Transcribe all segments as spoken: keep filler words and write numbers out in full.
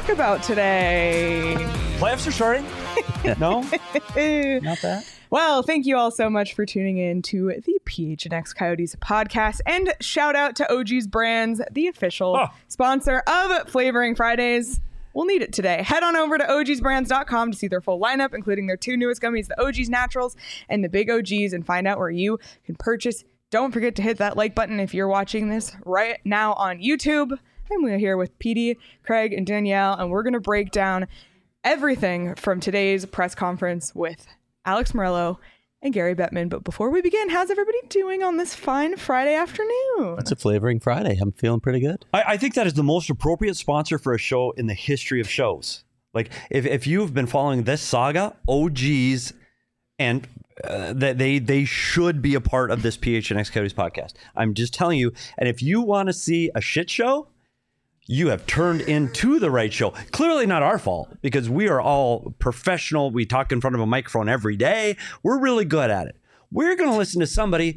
about today? Playoffs are starting. No, not that. Well, thank you all so much for tuning in to the P H N X Coyotes podcast, and shout out to O G's Brands, the official oh. sponsor of Flavoring Fridays. We'll need it today. Head on over to O Gs brands dot com to see their full lineup, including their two newest gummies, the O G's Naturals and the Big O Gs, and find out where you can purchase. Don't forget to hit that like button if you're watching this right now on YouTube. I'm here with P D, Craig, and Danielle, and we're going to break down everything from today's press conference with Alex Meruelo and Gary Bettman. But before we begin, how's everybody doing on this fine Friday afternoon? It's a Flavoring Friday. I'm feeling pretty good. I, I think that is the most appropriate sponsor for a show in the history of shows. Like, if, if you've been following this saga, O Gs, and uh, that they they should be a part of this P H N X Coyotes podcast. I'm just telling you. And if you want to see a shit show, you have turned into the right show. Clearly not our fault, because we are all professional. We talk in front of a microphone every day. We're really good at it. We're going to listen to somebody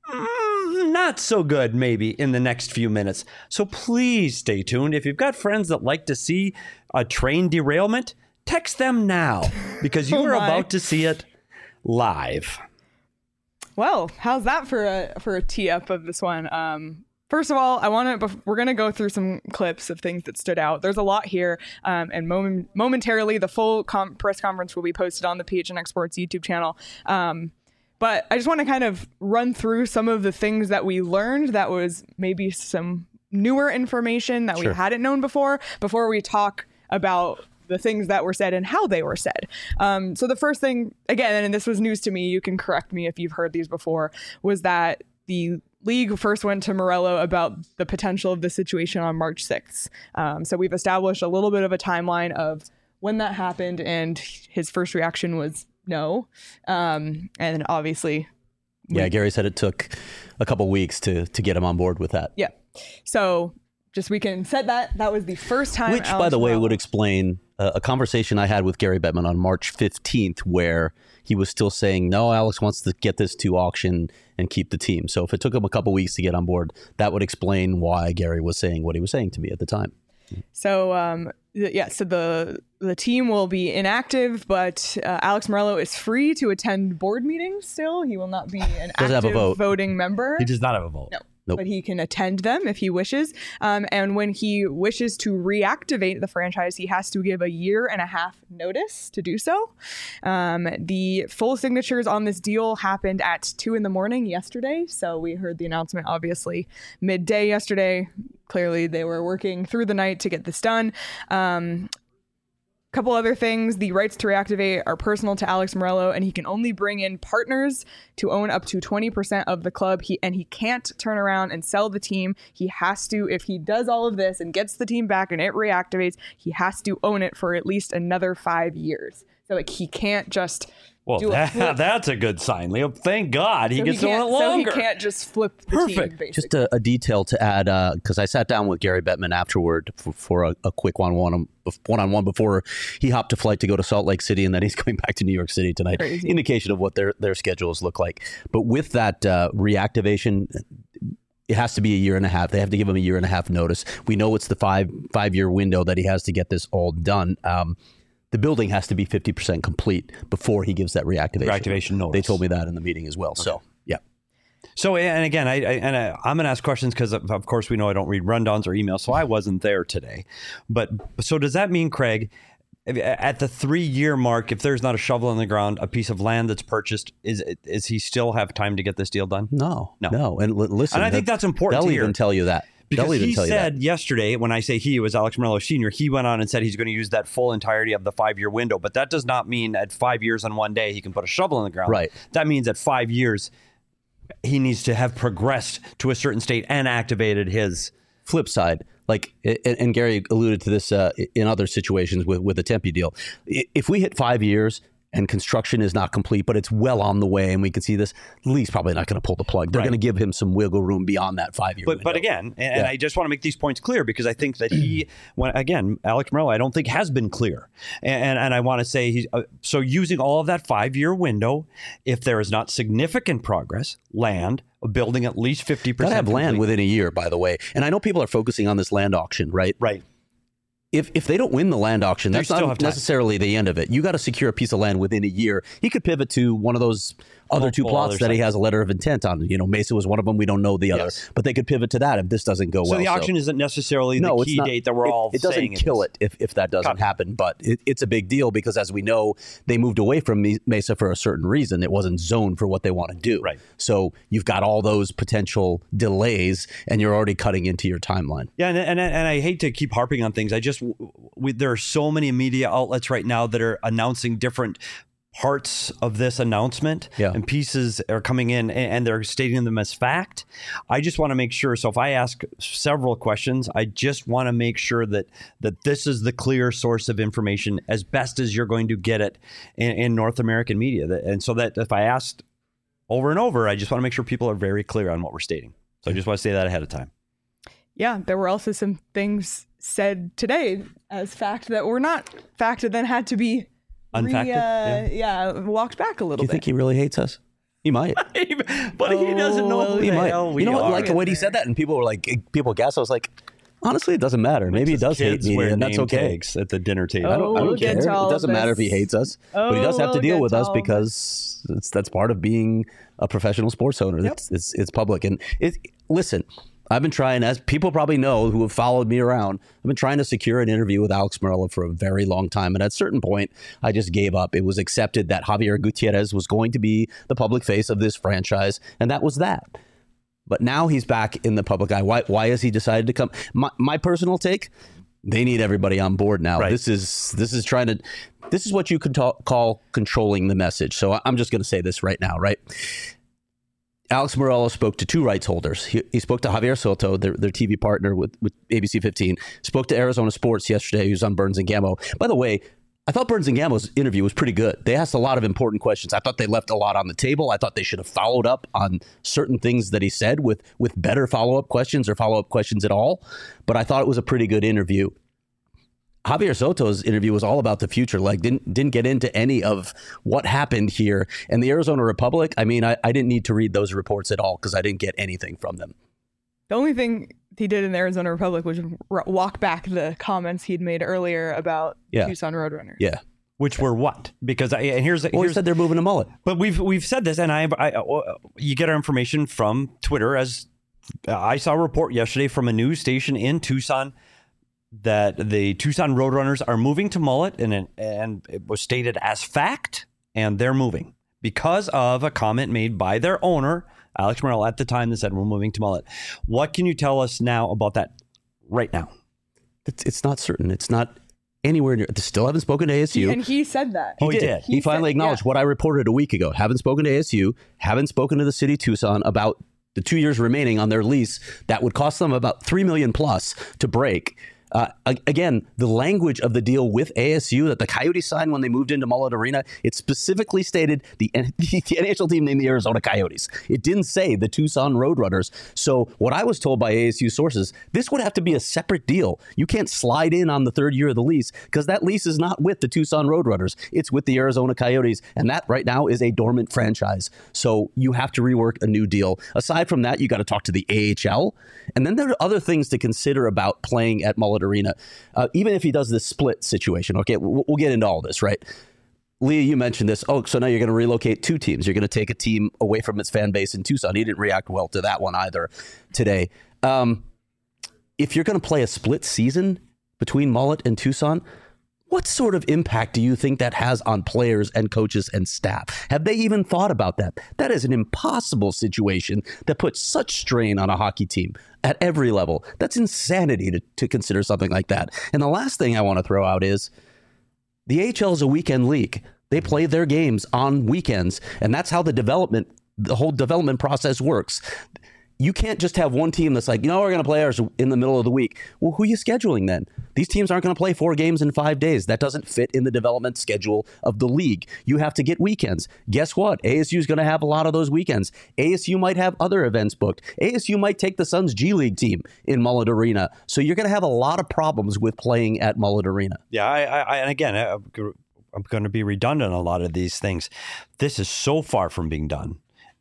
mm, not so good maybe in the next few minutes. So please stay tuned. If you've got friends that like to see a train derailment, text them now, because you oh are my. about to see it live. Well, how's that for a for a tee up of this one? Um, First of all, I want to, we're going to go through some clips of things that stood out. There's a lot here. Um, and moment, momentarily, the full com- press conference will be posted on the P H N X Sports YouTube channel. Um, but I just want to kind of run through some of the things that we learned that was maybe some newer information that sure. we hadn't known before, before we talk about the things that were said and how they were said. Um, so the first thing, again, and this was news to me, you can correct me if you've heard these before, was that the league first went to Meruelo about the potential of the situation on March sixth. Um, so we've established a little bit of a timeline of when that happened, and his first reaction was no. Um, and obviously... We, yeah, Gary said it took a couple weeks to to get him on board with that. Yeah. So just we can set that. That was the first time. Which, Alex by the way, Meruelo, would explain uh, a conversation I had with Gary Bettman on March fifteenth, where he was still saying, no, Alex wants to get this to auction and keep the team. So if it took him a couple weeks to get on board, that would explain why Gary was saying what he was saying to me at the time. So, um, th- yeah, so the the team will be inactive, but uh, Alex Meruelo is free to attend board meetings still. He will not be an active have a vote. voting member. He does not have a vote. No. Nope. But he can attend them if he wishes. Um, and when he wishes to reactivate the franchise, he has to give a year and a half notice to do so. Um, the full signatures on this deal happened at two in the morning yesterday. So we heard the announcement, obviously, midday yesterday. Clearly, they were working through the night to get this done. Um, couple other things. The rights to reactivate are personal to Alex Meruelo, and he can only bring in partners to own up to twenty percent of the club. He and he can't turn around and sell the team. He has to, if he does all of this and gets the team back and it reactivates, he has to own it for at least another five years. So like he can't just Well, do that, a that's a good sign, Leo. Thank God he so gets he on it longer. So he can't just flip the Perfect. team, basically. Just a, a detail to add, because uh, I sat down with Gary Bettman afterward for, for a, a quick one-on-one one-on-one before he hopped a flight to go to Salt Lake City, and then he's going back to New York City tonight. Crazy. Indication of what their, their schedules look like. But with that uh, reactivation, it has to be a year and a half. They have to give him a year and a half notice. We know it's the five, five-year window that he has to get this all done. Um, The building has to be fifty percent complete before he gives that reactivation. Reactivation notice. They told me that in the meeting as well. Okay. So, yeah. So, and again, I, I and I, I'm going to ask questions because, of, of course, we know I don't read rundowns or emails, so I wasn't there today. But so does that mean, Craig, at the three-year mark, if there's not a shovel in the ground, a piece of land that's purchased, is is he still have time to get this deal done? No, no, no. And l- listen, and I think that's important. They'll to even hear. tell you that. Because he said yesterday, when I say he, it was Alex Meruelo Senior, he went on and said he's going to use that full entirety of the five-year window. But that does not mean at five years and one day he can put a shovel in the ground. Right. That means at five years he needs to have progressed to a certain state and activated his... Flip side, like, and Gary alluded to this uh, in other situations with, with the Tempe deal. If we hit five years... and construction is not complete, but it's well on the way, and we can see this, the league's probably not going to pull the plug. They're right. going to give him some wiggle room beyond that five-year But window. but again, and, yeah. and I just want to make these points clear because I think that he, when again, Alex Meruelo, I don't think has been clear. And and, and I want to say, he's uh, so using all of that five-year window, if there is not significant progress, land, building at least fifty percent. Got to have land complete. within a year, by the way. And I know people are focusing on this land auction, right? Right. if if they don't win the land auction, They that's still have not time. necessarily the end of it. You got to secure a piece of land within a year. He could pivot to one of those other two Multiple plots other that he sites. has a letter of intent on. You know, Mesa was one of them. We don't know the other, Yes. but they could pivot to that if this doesn't go So well. the auction isn't necessarily no, the it's key not, date that we're it, all It doesn't saying kill is. it if, if that doesn't Copy. happen, but it, it's a big deal because, as we know, they moved away from Me- Mesa for a certain reason. It wasn't zoned for what they want to do. Right. So you've got all those potential delays, and you're already cutting into your timeline. Yeah, and, and and I hate to keep harping on things. I just we, there are so many media outlets right now that are announcing different parts of this announcement, Yeah. and pieces are coming in and, and they're stating them as fact. I just want to make sure. So if I ask several questions, I just want to make sure that that this is the clear source of information as best as you're going to get it in, in North American media. That- And so that if I asked over and over, I just want to make sure people are very clear on what we're stating. So I just want to say that ahead of time. Yeah, there were also some things said today as fact that were not fact and then had to be re- Unfacted? uh, yeah. walked back a Do little you bit. think he really hates us? He might. But he doesn't know Oh, who He the might. hell we you know what? are. Like when he said that, and people were like, people guessed. I was like, honestly, it doesn't matter. Maybe he does hate Kids me, wear and that's name okay. tags at the dinner table. I don't, I Oh, don't we'll get care. to all It doesn't of matter if he this. hates us, but he Oh, does have to we'll deal get with to us all of because it's, that's part of being a professional sports owner. Yep. It's, it's it's public, and it. Listen, I've been trying, as people probably know who have followed me around, I've been trying to secure an interview with Alex Morello for a very long time. And at a certain point, I just gave up. It was accepted that Javier Gutierrez was going to be the public face of this franchise, and that was that. But now he's back in the public eye. Why, why has he decided to come? My, my personal take, they need everybody on board now. Right. This is this is trying to, this is what you could ta- call controlling the message. So I- I'm just going to say this right now, right? Alex Morello spoke to two rights holders. He, he spoke to Javier Soto, their, their T V partner with, with A B C fifteen, spoke to Arizona Sports yesterday, who's on Burns and Gammo. By the way, I thought Burns and Gammo's interview was pretty good. They asked a lot of important questions. I thought they left a lot on the table. I thought they should have followed up on certain things that he said with, with better follow-up questions or follow-up questions at all. But I thought it was a pretty good interview. Javier Soto's interview was all about the future, like didn't didn't get into any of what happened here. And the Arizona Republic, I mean, I, I didn't need to read those reports at all because I didn't get anything from them. The only thing he did in the Arizona Republic was r- walk back the comments he'd made earlier about Yeah. Tucson Roadrunners. Yeah. Which were what? Because I, and here's Well, he here's said they're moving to Mullet. but we've we've said this, and I, I you get our information from Twitter. As I saw a report yesterday from a news station in Tucson that the Tucson Roadrunners are moving to Mullet, and it, and it was stated as fact, and they're moving because of a comment made by their owner, Alex Morello, at the time that said we're moving to Mullet. What can you tell us now about that right now? It's, it's not certain. It's not anywhere near. They still haven't spoken to A S U. And he said that. Oh, he did. He, He finally said- acknowledged yeah. what I reported a week ago. Haven't spoken to A S U. Haven't spoken to the city of Tucson about the two years remaining on their lease that would cost them about three million plus to break. Uh, a- again, the language of the deal with A S U that the Coyotes signed when they moved into Mullet Arena, it specifically stated the, N- the N H L team named the Arizona Coyotes. It didn't say the Tucson Roadrunners. So what I was told by A S U sources, this would have to be a separate deal. You can't slide in on the third year of the lease because that lease is not with the Tucson Roadrunners. It's with the Arizona Coyotes. And that right now is a dormant franchise. So you have to rework a new deal. Aside from that, you got to talk to the A H L. And then there are other things to consider about playing at Mullet Arena, uh, even if he does this split situation. Okay, we'll, we'll get into all this, right? Leah, you mentioned this. Oh, so now you're going to relocate two teams. You're going to take a team away from its fan base in Tucson. He didn't react well to that one either today. Um, if you're going to play a split season between Mullet and Tucson, what sort of impact do you think that has on players and coaches and staff? Have they even thought about that? That is an impossible situation that puts such strain on a hockey team at every level. That's insanity to, to consider something like that. And the last thing I want to throw out is the A H L is a weekend league. They play their games on weekends, and that's how the development, the whole development process works. You can't just have one team that's like, you know, we're going to play ours in the middle of the week. Well, who are you scheduling then? These teams aren't going to play four games in five days. That doesn't fit in the development schedule of the league. You have to get weekends. Guess what? A S U is going to have a lot of those weekends. A S U might have other events booked. A S U might take the Suns G League team in Mullet Arena. So you're going to have a lot of problems with playing at Mullet Arena. Yeah, I, I and again, I, I'm going to be redundant on a lot of these things. This is so far from being done.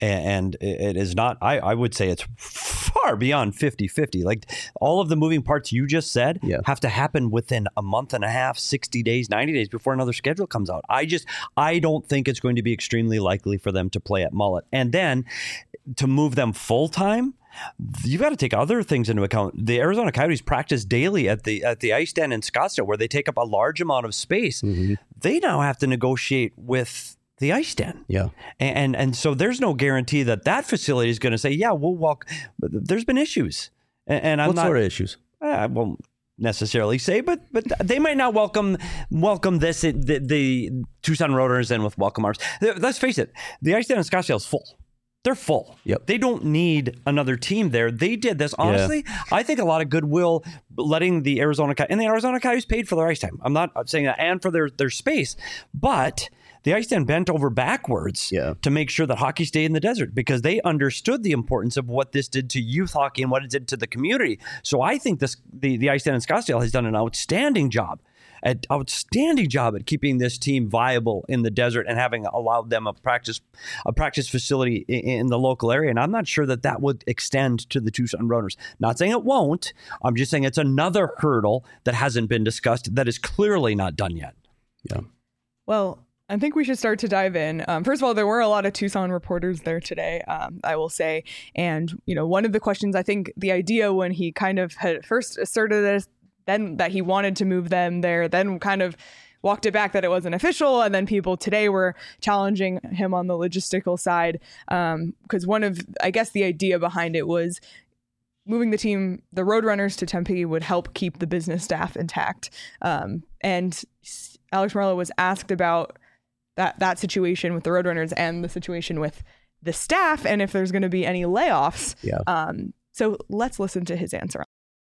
and it is not, I, I would say it's far beyond fifty-fifty. Like all of the moving parts you just said yeah. have to happen within a month and a half, sixty days, ninety days before another schedule comes out. I just, I don't think it's going to be extremely likely for them to play at Mullet. And then to move them full time, you've got to take other things into account. The Arizona Coyotes practice daily at the at the ice den in Scottsdale, where they take up a large amount of space. Mm-hmm. They now have to negotiate with the ice den. Yeah. And, and and so there's no guarantee that that facility is going to say, yeah, we'll walk. There's been issues. And, and I'm what not, sort of issues? I won't necessarily say, but but they might not welcome welcome this, the, the Tucson Roadrunners in with welcome arms. Let's face it, the ice den in Scottsdale is full. They're full. Yep. They don't need another team there. They did this. Honestly, yeah. I think a lot of goodwill letting the Arizona Coyotes, and the Arizona Coyotes paid for their ice time. I'm not saying that, and for their, their space, but the ice den bent over backwards yeah. to make sure that hockey stayed in the desert because they understood the importance of what this did to youth hockey and what it did to the community. So I think this the, the ice den in Scottsdale has done an outstanding job. An outstanding job at keeping this team viable in the desert and having allowed them a practice a practice facility in, in the local area. And I'm not sure that that would extend to the Tucson Roadrunners. Not saying it won't. I'm just saying it's another hurdle that hasn't been discussed that is clearly not done yet. Yeah. Well, I think we should start to dive in. Um, first of all, there were a lot of Tucson reporters there today, um, I will say. And, you know, one of the questions, I think the idea when he kind of had first asserted this, then that he wanted to move them there, then kind of walked it back that it wasn't official. And then people today were challenging him on the logistical side. Um, because one of, I guess the idea behind it was moving the team, the Roadrunners to Tempe would help keep the business staff intact. Um, and Alex Meruelo was asked about that, that situation with the Roadrunners and the situation with the staff and if there's going to be any layoffs. Yeah. Um, so let's listen to his answer.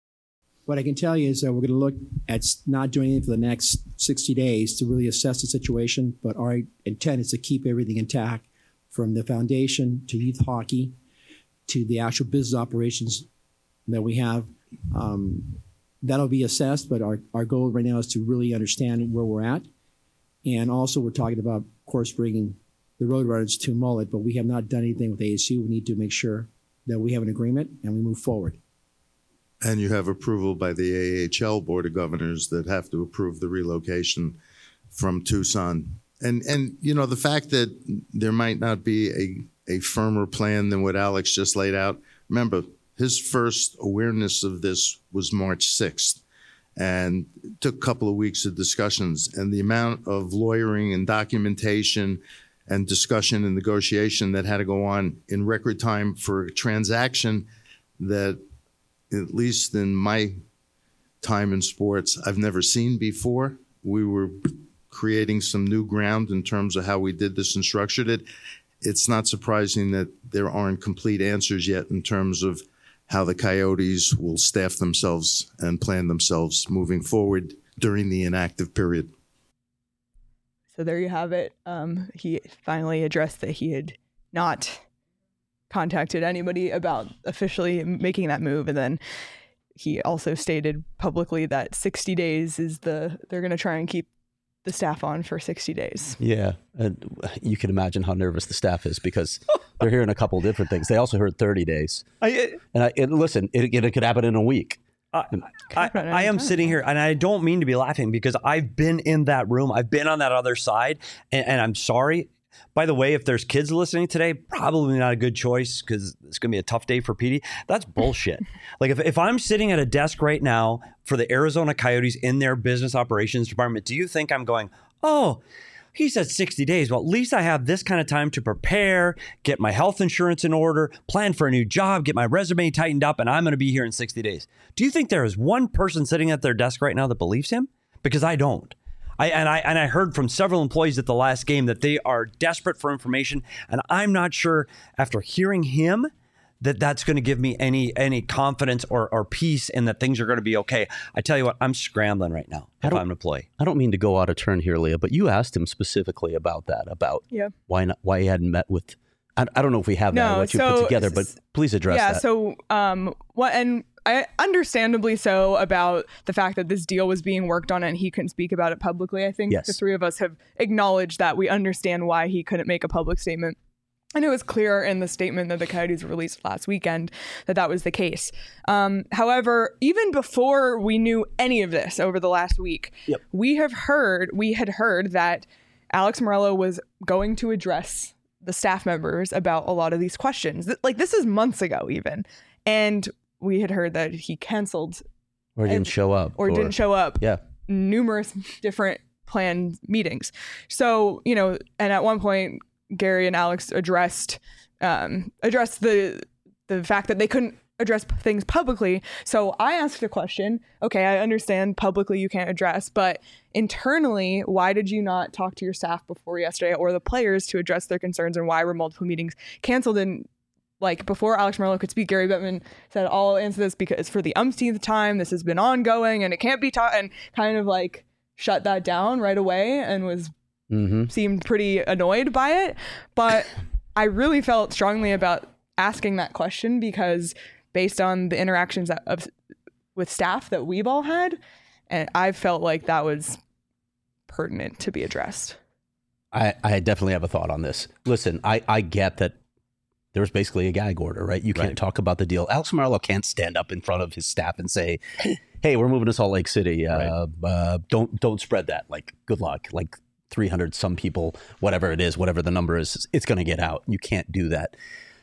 What I can tell you is that we're going to look at not doing anything for the next sixty days to really assess the situation, but our intent is to keep everything intact from the foundation to youth hockey to the actual business operations that we have. Um, that'll be assessed, but our, our goal right now is to really understand where we're at. And also we're talking about, of course, bringing the Roadrunners to Mullet, but we have not done anything with A S U. We need to make sure that we have an agreement and we move forward. And you have approval by the A H L Board of Governors that have to approve the relocation from Tucson. And, and you know, the fact that there might not be a, a firmer plan than what Alex just laid out, remember, his first awareness of this was March sixth. And it took a couple of weeks of discussions. And the amount of lawyering and documentation and discussion and negotiation that had to go on in record time for a transaction that, at least in my time in sports, I've never seen before. We were creating some new ground in terms of how we did this and structured it. It's not surprising that there aren't complete answers yet in terms of how the Coyotes will staff themselves and plan themselves moving forward during the inactive period. So there you have it. Um, he finally addressed that he had not contacted anybody about officially making that move, and then he also stated publicly that sixty days is the they're going to try and keep the staff on for sixty days. Yeah, and you can imagine how nervous the staff is because they're hearing a couple of different things. They also heard thirty days, I, and, I, and listen, it, it could happen in a week. I, I, I am sitting here and I don't mean to be laughing because I've been in that room. I've been on that other side, and, and I'm sorry. By the way, if there's kids listening today, probably not a good choice because it's going to be a tough day for Petey. That's bullshit. Like if, if I'm sitting at a desk right now for the Arizona Coyotes in their business operations department, do you think I'm going, oh, he said sixty days. Well, at least I have this kind of time to prepare, get my health insurance in order, plan for a new job, get my resume tightened up, and I'm going to be here in sixty days. Do you think there is one person sitting at their desk right now that believes him? Because I don't. I, and I and I heard from several employees at the last game that they are desperate for information, and I'm not sure after hearing him that that's going to give me any any confidence or, or peace in that things are going to be okay. I tell you what, I'm scrambling right now if I'm an employee. I don't mean to go out of turn here, Leah, but you asked him specifically about that, about yeah. why not, why he hadn't met with. I, I don't know if we have that no, or what you so, put together, but please address yeah, that. Yeah, so um, what and. I understandably so about the fact that this deal was being worked on and he couldn't speak about it publicly. I think yes. the three of us have acknowledged that we understand why he couldn't make a public statement. And it was clear in the statement that the Coyotes released last weekend that that was the case. Um, however, even before we knew any of this over the last week, Yep. we have heard, we had heard that Alex Morello was going to address the staff members about a lot of these questions. Like, this is months ago even. And we had heard that he canceled Or didn't show up. or, didn't show up Yeah. numerous different planned meetings. So, you know, and at one point, Gary and Alex addressed um, addressed the the fact that they couldn't address p- things publicly. So I asked a question. Okay, I understand publicly you can't address, but internally, why did you not talk to your staff before yesterday or the players to address their concerns, and why were multiple meetings canceled? And like before Alex Morello could speak, Gary Bettman said, "I'll answer this because for the umpteenth time, this has been ongoing and it can't be taught," and kind of like shut that down right away and was Mm-hmm. seemed pretty annoyed by it. But I really felt strongly about asking that question because based on the interactions that, of, with staff that we've all had, and I felt like that was pertinent to be addressed. I, I definitely have a thought on this. Listen, I, I get that there was basically a gag order, right? You can't Right. talk about the deal. Alex Morello can't stand up in front of his staff and say, hey, we're moving to Salt Lake City. Uh, uh, don't don't spread that. Like, good luck. Like, three hundred some people, whatever it is, whatever the number is, it's going to get out. You can't do that.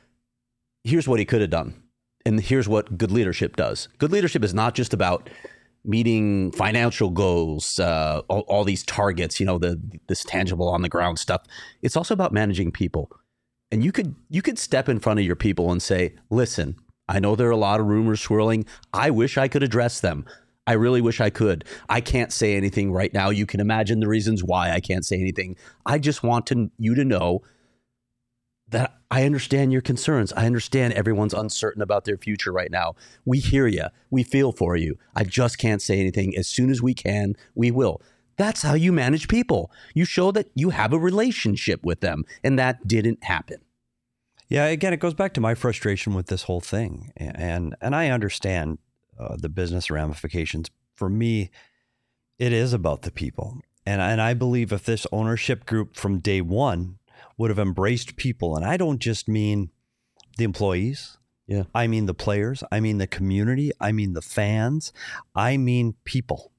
Here's what he could have done. And here's what good leadership does. Good leadership is not just about meeting financial goals, uh, all, all these targets, you know, the this tangible on the ground stuff. It's also about managing people. And you could you could step in front of your people and say, listen, I know there are a lot of rumors swirling. I wish I could address them. I really wish I could. I can't say anything right now. You can imagine the reasons why I can't say anything. I just want to, you to know that I understand your concerns. I understand everyone's uncertain about their future right now. We hear you. We feel for you. I just can't say anything. As soon as we can, we will. That's how you manage people. You show that you have a relationship with them, and that didn't happen. Yeah, again, it goes back to my frustration with this whole thing. And and I understand uh, the business ramifications. For me, it is about the people. And, and I believe if this ownership group from day one would have embraced people, and I don't just mean the employees. Yeah. I mean the players. I mean the community. I mean the fans. I mean people.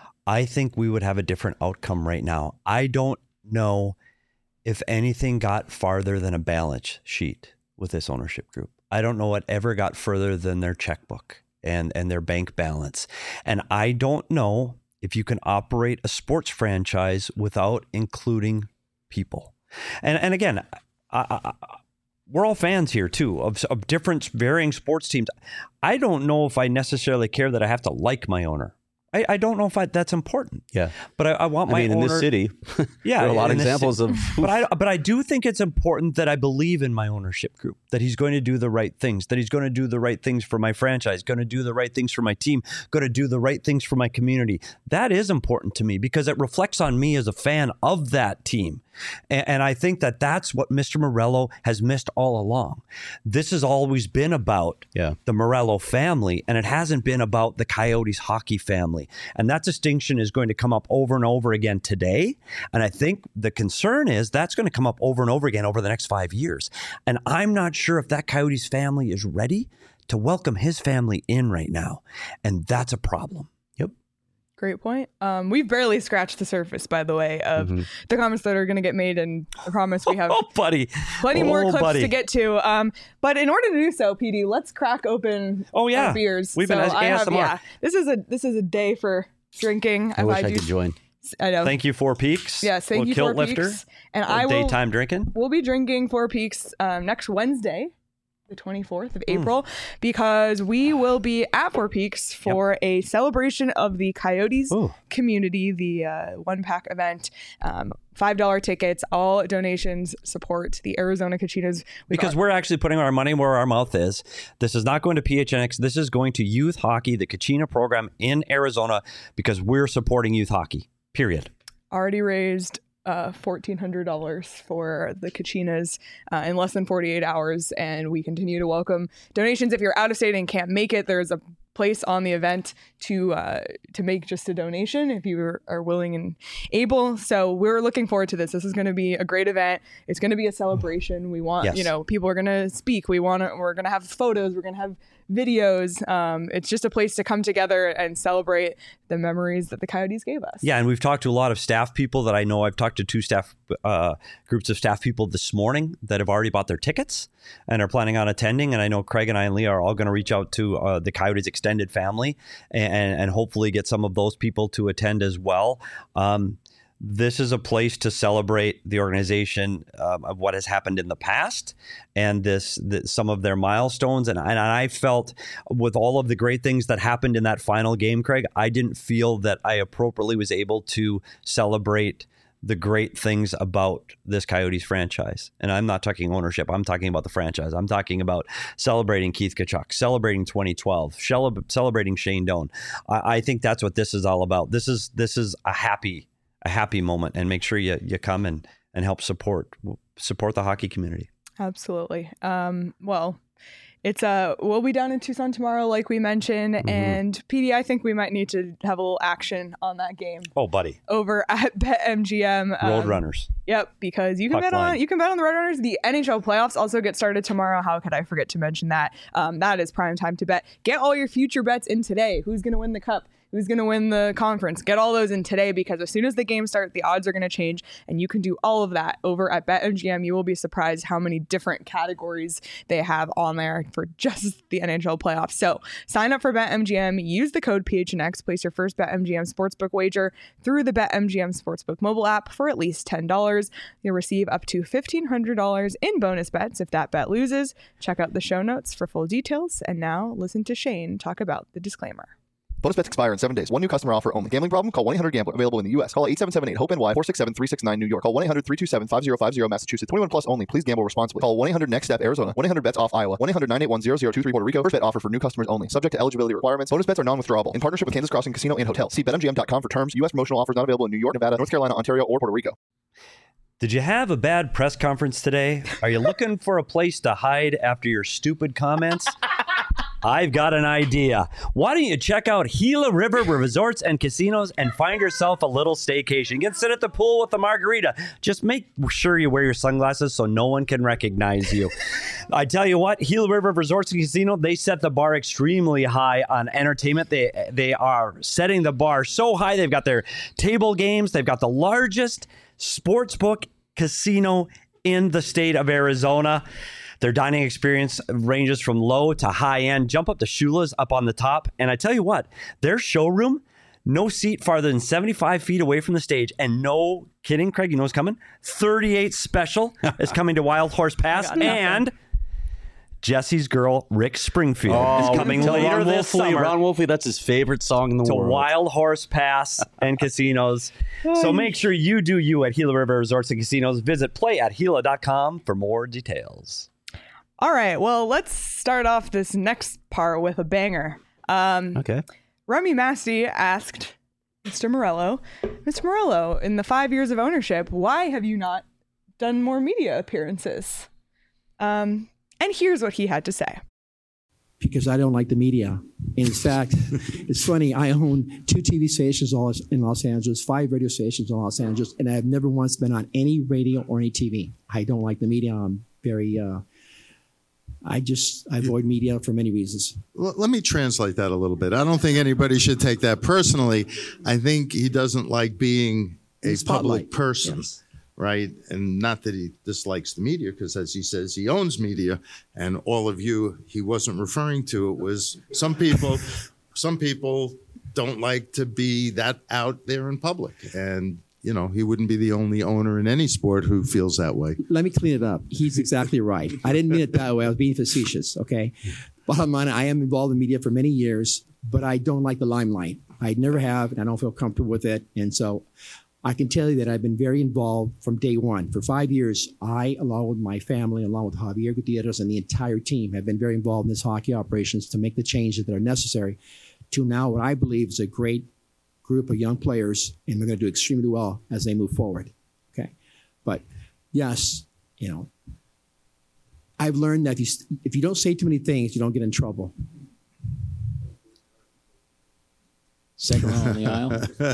I think we would have a different outcome right now. I don't know if anything got farther than a balance sheet with this ownership group. I don't know what ever got further than their checkbook and, and their bank balance. And I don't know if you can operate a sports franchise without including people. And and again, I, I, we're all fans here too of, of different varying sports teams. I don't know if I necessarily care that I have to like my owner. I, I don't know if I, that's important. Yeah. But I, I want my I mean, owner. in this city, Yeah, there are a lot of in this examples ci- of. But I but I do think it's important that I believe in my ownership group, that he's going to do the right things, that he's going to do the right things for my franchise, going to do the right things for my team, going to do the right things for my community. That is important to me because it reflects on me as a fan of that team. And, and I think that that's what Mister Morello has missed all along. This has always been about Yeah. the Morello family, and it hasn't been about the Coyotes hockey family. And that distinction is going to come up over and over again today. And I think the concern is that's going to come up over and over again over the next five years. And I'm not sure if that Coyotes family is ready to welcome his family in right now. And that's a problem. Yep. Great point. Um, we've barely scratched the surface, by the way, of Mm-hmm. the comments that are going to get made. And I promise we have Oh, buddy. plenty more Oh, clips buddy. to get to. Um, but in order to do so, P D, let's crack open Oh, yeah. our beers. We've been So as- I have, A S M R. yeah, this is a this is a day for drinking. I If wish I do- could join. I know. Thank you, Four Peaks. Yes, thank Little you, kilt Four lifter. Peaks. And Little I will. daytime drinking. We'll be drinking Four Peaks um, next Wednesday, the twenty-fourth Hmm. of April, because we will be at Four Peaks for a celebration of the Coyotes Ooh. community, the uh, one pack event. Um, five dollar tickets, all donations support the Arizona Kachinas. We Because got- we're actually putting our money where our mouth is. This is not going to P H N X. This is going to youth hockey, the Kachina program in Arizona, because we're supporting youth hockey, period. already raised uh, fourteen hundred dollars for the Kachinas uh, in less than forty-eight hours, and we continue to welcome donations. If you're out of state and can't make it, there's a place on the event to uh, to make just a donation if you are, are willing and able. So we're looking forward to this. This is going to be a great event. It's going to be a celebration. We want, Yes. you know, people are going to speak. We want to, we're going to have photos. We're going to have videos. Um, it's just a place to come together and celebrate the memories that the Coyotes gave us. Yeah, and we've talked to a lot of staff people that I know. I've talked to two staff uh, groups of staff people this morning that have already bought their tickets and are planning on attending. And I know Craig and I and Leah are all going to reach out to uh, the Coyotes extended family and, and hopefully get some of those people to attend as well. Um, This is a place to celebrate the organization um, of what has happened in the past and this, this some of their milestones. And, and I felt with all of the great things that happened in that final game, Craig, I didn't feel that I appropriately was able to celebrate the great things about this Coyotes franchise. And I'm not talking ownership. I'm talking about the franchise. I'm talking about celebrating Keith Tkachuk, celebrating twenty twelve, celebrating Shane Doan. I, I think that's what this is all about. This is this is a happy a happy moment, and make sure you you come and and help support support the hockey community. Absolutely. Um, well, it's uh we'll be down in Tucson tomorrow, like we mentioned, mm-hmm. and P D, I think we might need to have a little action on that game. Oh, buddy, over at BetMGM. Um, Roadrunners. Yep, because you can Puck bet line. on you can bet on the Roadrunners. The N H L playoffs also get started tomorrow. How could I forget to mention that? Um, that is prime time to bet. Get all your future bets in today. Who's going to win the cup? Who's going to win the conference? Get all those in today, because as soon as the games start, the odds are going to change, and you can do all of that over at BetMGM. You will be surprised how many different categories they have on there for just the N H L playoffs. So sign up for BetMGM, use the code P H N X, place your first BetMGM sportsbook wager through the BetMGM Sportsbook mobile app for at least ten dollars. You'll receive up to fifteen hundred dollars in bonus bets if that bet loses. Check out the show notes for full details. And now listen to Shane talk about the disclaimer. Bonus bets expire in seven days. One new customer offer only. Gambling problem? Call one eight hundred gambler. Available in the U S. Call eight seven seven eight hope N Y four six seven three six nine New York. Call one eight hundred three two seven five zero five zero Massachusetts. twenty-one plus only. Please gamble responsibly. Call one eight hundred next step Arizona. one eight hundred bets off Iowa. one eight hundred nine eight one zero zero two three Puerto Rico. First bet offer for new customers only. Subject to eligibility requirements. Bonus bets are non-withdrawable. In partnership with Kansas Crossing Casino and Hotel. See bet M G M dot com for terms. U S promotional offers not available in New York, Nevada, North Carolina, Ontario, or Puerto Rico. Did you have a bad press conference today? Are you looking for a place to hide after your stupid comments? I've got an idea. Why don't you check out Gila River Resorts and Casinos and find yourself a little staycation? You can sit at the pool with a margarita. Just make sure you wear your sunglasses so no one can recognize you. I tell you what, Gila River Resorts and Casino, they set the bar extremely high on entertainment. They they are setting the bar so high. They've got their table games. They've got the largest sportsbook casino in the state of Arizona. Their dining experience ranges from low to high end. Jump up to Shula's up on the top. And I tell you what, their showroom, no seat farther than seventy-five feet away from the stage. And no kidding, Craig, you know what's coming? thirty-eight Special is coming to Wild Horse Pass. And Jesse's girl, Rick Springfield, Oh, is coming tell later Ron this Wolfley, summer Ron Wolfley, that's his favorite song in the to world. Wild Horse Pass and Casinos. So make sure you do you at Gila River Resorts and Casinos. Visit play at Gila dot com for more details. All right, well, let's start off this next part with a banger. Um, Okay. Remy Masti asked Mister Morello, Mister Morello, in the five years of ownership, why have you not done more media appearances? Um, and here's what he had to say. Because I don't like the media. In fact, it's funny, I own two T V stations in Los Angeles, five radio stations in Los Angeles, and I've never once been on any radio or any T V. I don't like the media. I'm very... Uh, I just I avoid media for many reasons. L- let me translate that a little bit. I don't think anybody should take that personally. I think he doesn't like being a public person, yes. Right? And not that he dislikes the media, because as he says, he owns media, and all of you he wasn't referring to. It was some people, some people don't like to be that out there in public. And you know, he wouldn't be the only owner in any sport who feels that way. Let me clean it up. He's exactly right. I didn't mean it that way. I was being facetious, okay? Bottom line, I am involved in media for many years, but I don't like the limelight. I never have, and I don't feel comfortable with it. And so I can tell you that I've been very involved from day one. For five years, I, along with my family, along with Javier Gutierrez and the entire team, have been very involved in this hockey operations to make the changes that are necessary to now what I believe is a great group of young players, and they're going to do extremely well as they move forward. Okay, but yes, you know, I've learned that if you, if you don't say too many things, you don't get in trouble. Second row on the aisle.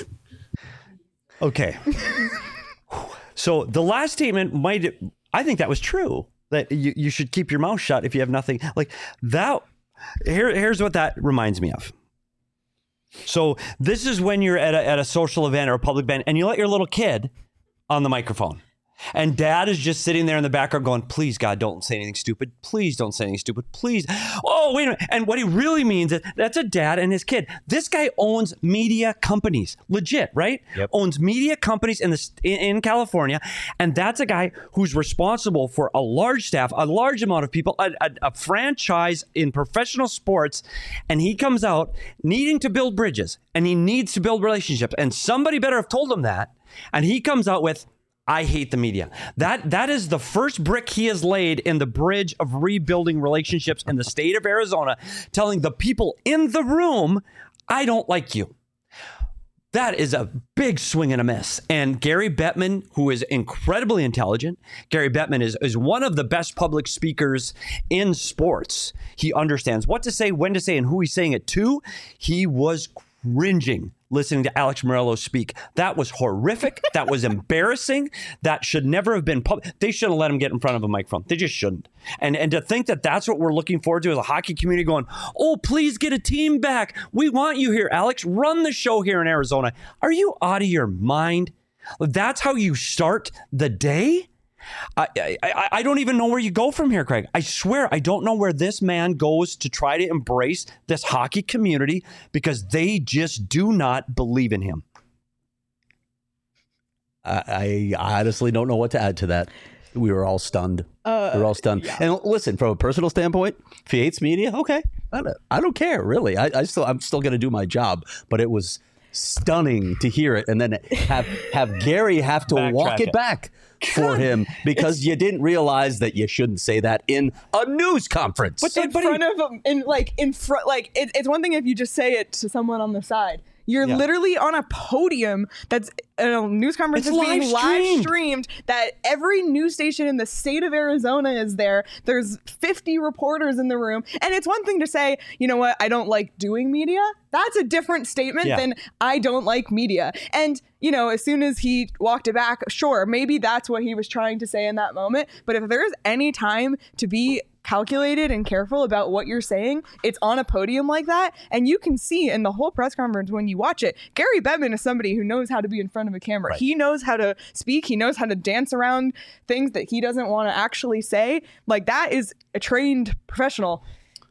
Okay. So the last statement might, I think that was true, that you, you should keep your mouth shut if you have nothing like that. Here, here's what that reminds me of. So this is when you're at a, at a social event or a public event and you let your little kid on the microphone. And dad is just sitting there in the background going, please, God, don't say anything stupid. Please don't say anything stupid. Please. Oh, wait a minute. And what he really means is that's a dad and his kid. This guy owns media companies. Legit, right? Yep. Owns media companies in the in, in California. And that's a guy who's responsible for a large staff, a large amount of people, a, a, a franchise in professional sports. And he comes out needing to build bridges and he needs to build relationships. And somebody better have told him that. And he comes out with, I hate the media. That that is the first brick he has laid in the bridge of rebuilding relationships in the state of Arizona, telling the people in the room, I don't like you. That is a big swing and a miss. And Gary Bettman, who is incredibly intelligent, Gary Bettman is, is one of the best public speakers in sports. He understands what to say, when to say, and who he's saying it to. He was cringing listening to Alex Morelos speak. That was horrific. That was embarrassing. That should never have been public. They shouldn't let him get in front of a microphone. They just shouldn't. And and to think that that's what we're looking forward to as a hockey community going, oh, please get a team back. We want you here, Alex. Run the show here in Arizona. Are you out of your mind? That's how you start the day? I, I I don't even know where you go from here, Craig. I swear I don't know where this man goes to try to embrace this hockey community because they just do not believe in him. I, I honestly don't know what to add to that. We were all stunned. Uh, we were all stunned. Yeah. And listen, from a personal standpoint, if he hates media, okay, I don't, I don't care really. I, I still I'm still going to do my job, but it was stunning to hear it and then have have Gary have to Backtrack walk it, it back for him because it's, you didn't realize that you shouldn't say that in a news conference. But in front of him, in like in front, like it, it's one thing if you just say it to someone on the side. You're yeah. literally on a podium that's a news conference is being live streamed. streamed that every news station in the state of Arizona is there. There's fifty reporters in the room. And it's one thing to say, you know what, I don't like doing media. That's a different statement yeah. than I don't like media. And, you know, as soon as he walked it back, sure, maybe that's what he was trying to say in that moment. But if there's any time to be calculated and careful about what you're saying, it's on a podium like that. And you can see in the whole press conference when you watch it, Gary Bettman is somebody who knows how to be in front of a camera. Right. He knows how to speak. He knows how to dance around things that he doesn't want to actually say. Like, that is a trained professional.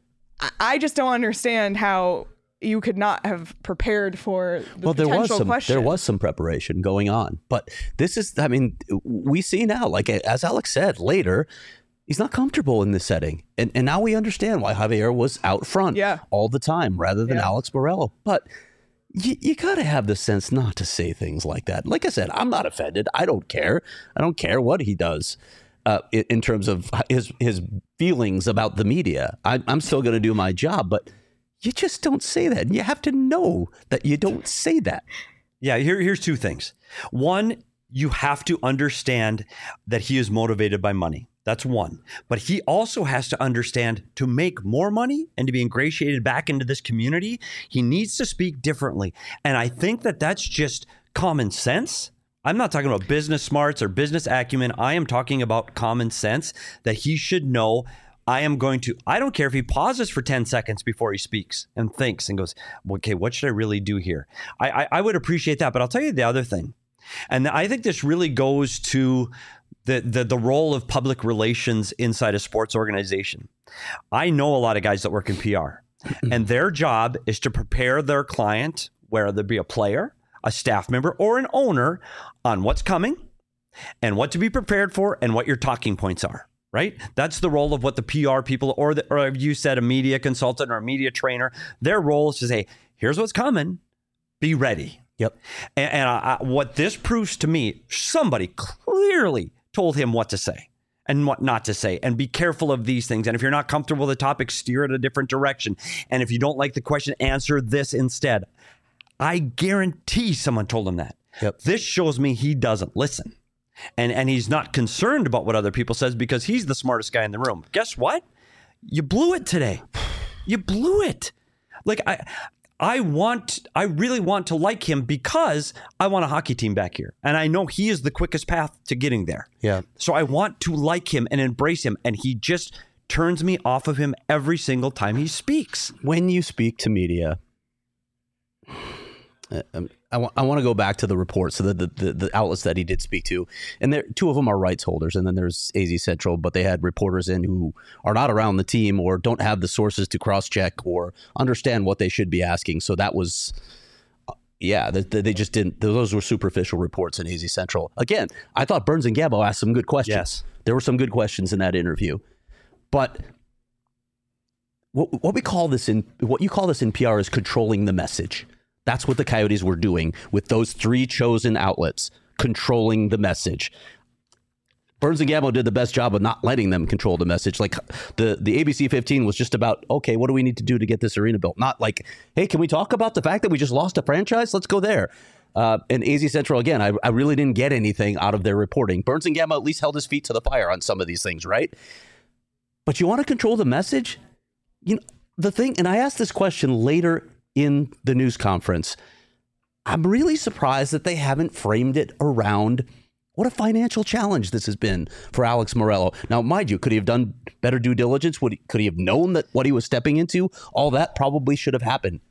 I, I just don't understand how you could not have prepared for the well, potential there was some, question. There was some preparation going on. But this is, I mean, we see now, like as Alex said later, he's not comfortable in this setting. And and now we understand why Javier was out front yeah. all the time rather than yeah. Alex Borrello. But you, you got to have the sense not to say things like that. Like I said, I'm not offended. I don't care. I don't care what he does uh, in, in terms of his, his feelings about the media. I, I'm still going to do my job, but you just don't say that. And you have to know that you don't say that. Yeah, here, here's two things. One, you have to understand that he is motivated by money. That's one. But he also has to understand to make more money and to be ingratiated back into this community, he needs to speak differently. And I think that that's just common sense. I'm not talking about business smarts or business acumen. I am talking about common sense that he should know. I am going to, I don't care if he pauses for ten seconds before he speaks and thinks and goes, okay, what should I really do here? I, I, I would appreciate that. But I'll tell you the other thing. And I think this really goes to the, the the role of public relations inside a sports organization. I know a lot of guys that work in P R, and their job is to prepare their client, whether it be a player, a staff member, or an owner, on what's coming and what to be prepared for and what your talking points are. Right? That's the role of what the P R people, or, the, or you said a media consultant or a media trainer, their role is to say, here's what's coming, be ready. Yep. And, and I, I, what this proves to me, somebody clearly told him what to say and what not to say, and be careful of these things. And if you're not comfortable with the topic, steer it a different direction. And if you don't like the question, answer this instead. I guarantee someone told him that. Yep. This shows me he doesn't listen. And and he's not concerned about what other people says because he's the smartest guy in the room. Guess what? You blew it today. You blew it. Like I I want, I really want to like him because I want a hockey team back here. And I know he is the quickest path to getting there. Yeah. So I want to like him and embrace him. And he just turns me off of him every single time he speaks. When you speak to media, um, I, w- I want to go back to the reports, so the, the, the, the outlets that he did speak to. And there, two of them are rights holders, and then there's A Z Central, but they had reporters in who are not around the team or don't have the sources to cross-check or understand what they should be asking. So that was, uh, yeah, they, they just didn't, those were superficial reports in A Z Central. Again, I thought Burns and Gambo asked some good questions. Yes. There were some good questions in that interview. But what, what we call this in, what you call this in P R is controlling the message. That's what the Coyotes were doing with those three chosen outlets, controlling the message. Burns and Gambo did the best job of not letting them control the message. Like the, the A B C fifteen was just about, okay, what do we need to do to get this arena built? Not like, hey, can we talk about the fact that we just lost a franchise? Let's go there. Uh, and A Z Central, again, I, I really didn't get anything out of their reporting. Burns and Gambo at least held his feet to the fire on some of these things, right? But you want to control the message? You know, the thing, and I asked this question later in the news conference, I'm really surprised that they haven't framed it around what a financial challenge this has been for Alex Morello. Now, mind you, could he have done better due diligence? Would he, could he have known that what he was stepping into? All that probably should have happened.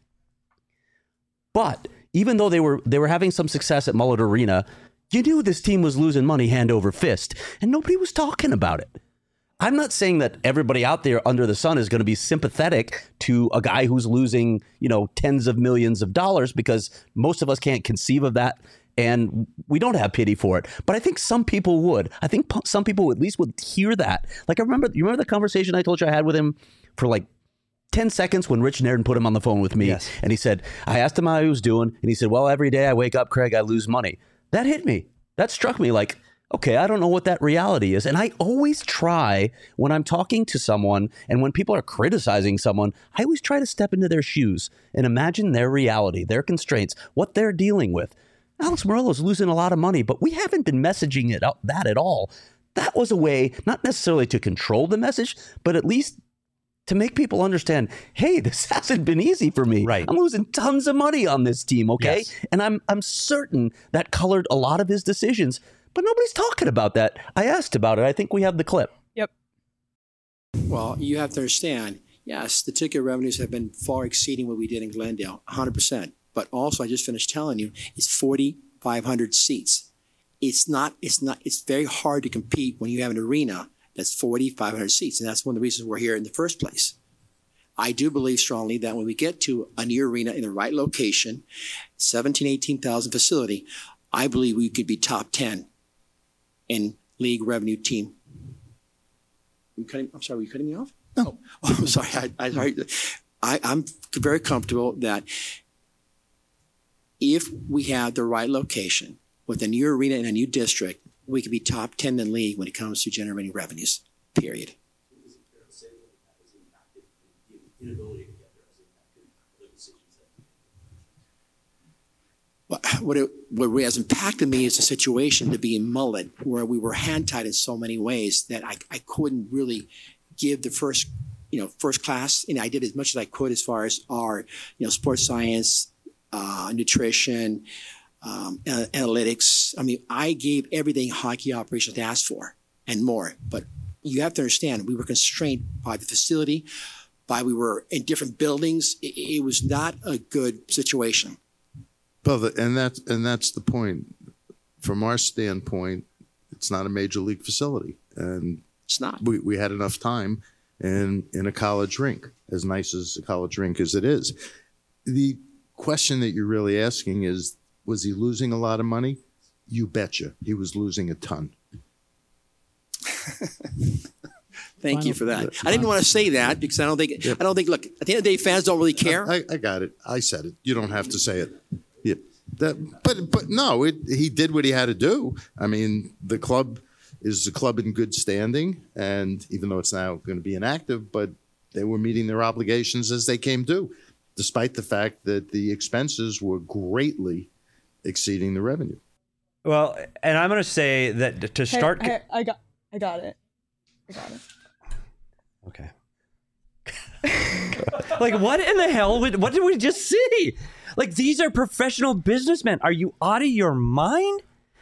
But even though they were they were having some success at Mullet Arena, you knew this team was losing money hand over fist, and nobody was talking about it. I'm not saying that everybody out there under the sun is going to be sympathetic to a guy who's losing, you know, tens of millions of dollars, because most of us can't conceive of that, and we don't have pity for it. But I think some people would. I think some people at least would hear that. Like I remember, you remember the conversation I told you I had with him for like ten seconds when Rich Nairn put him on the phone with me. Yes. And he said, I asked him how he was doing, and he said, well, every day I wake up, Craig, I lose money. That hit me. That struck me like, okay, I don't know what that reality is. And I always try when I'm talking to someone and when people are criticizing someone, I always try to step into their shoes and imagine their reality, their constraints, what they're dealing with. Alex Morello's losing a lot of money, but we haven't been messaging it up that at all. That was a way, not necessarily to control the message, but at least to make people understand, hey, this hasn't been easy for me. Right. I'm losing tons of money on this team, okay? Yes. And I'm I'm certain that colored a lot of his decisions. But nobody's talking about that. I asked about it. I think we have the clip. Yep. Well, you have to understand, yes, the ticket revenues have been far exceeding what we did in Glendale, one hundred percent. But also, I just finished telling you, it's forty-five hundred seats. It's not, it's not, it's very hard to compete when you have an arena that's forty-five hundred seats. And that's one of the reasons we're here in the first place. I do believe strongly that when we get to a new arena in the right location, seventeen, eighteen thousand facility, I believe we could be top ten in league revenue team. You cutting, I'm sorry, were you cutting me off? No. Oh, I'm sorry. I, I, sorry. I, I'm very comfortable that if we have the right location with a new arena in a new district, we could be top ten in the league when it comes to generating revenues, period. What, it, what has impacted me is the situation to be in Mullet, where we were hand-tied in so many ways that I, I couldn't really give the first, you know, first class. And I did as much as I could as far as our, you know, sports science, uh, nutrition, um, uh, analytics. I mean, I gave everything hockey operations asked for and more. But you have to understand, we were constrained by the facility, by we were in different buildings. It, it was not a good situation. Well, the, and that's and that's the point. From our standpoint, it's not a major league facility, and It's not. we, we had enough time in in a college rink, as nice as a college rink as it is. The question that you're really asking is, was he losing a lot of money? You betcha, he was losing a ton. Thank you for that. I didn't want to say that because I don't think I don't think. Look, at the end of the day, fans don't really care. I, I got it. I said it. You don't have to say it. Yeah. That, but but no, it, he did what he had to do. I mean, the club is the club in good standing, and even though it's now going to be inactive, but they were meeting their obligations as they came due, despite the fact that the expenses were greatly exceeding the revenue. Well, and I'm going to say that to Hey, start. hey, I got, I got it. I got it. Okay. Like, what in the hell? Would, what did we just see? Like, these are professional businessmen. Are you out of your mind?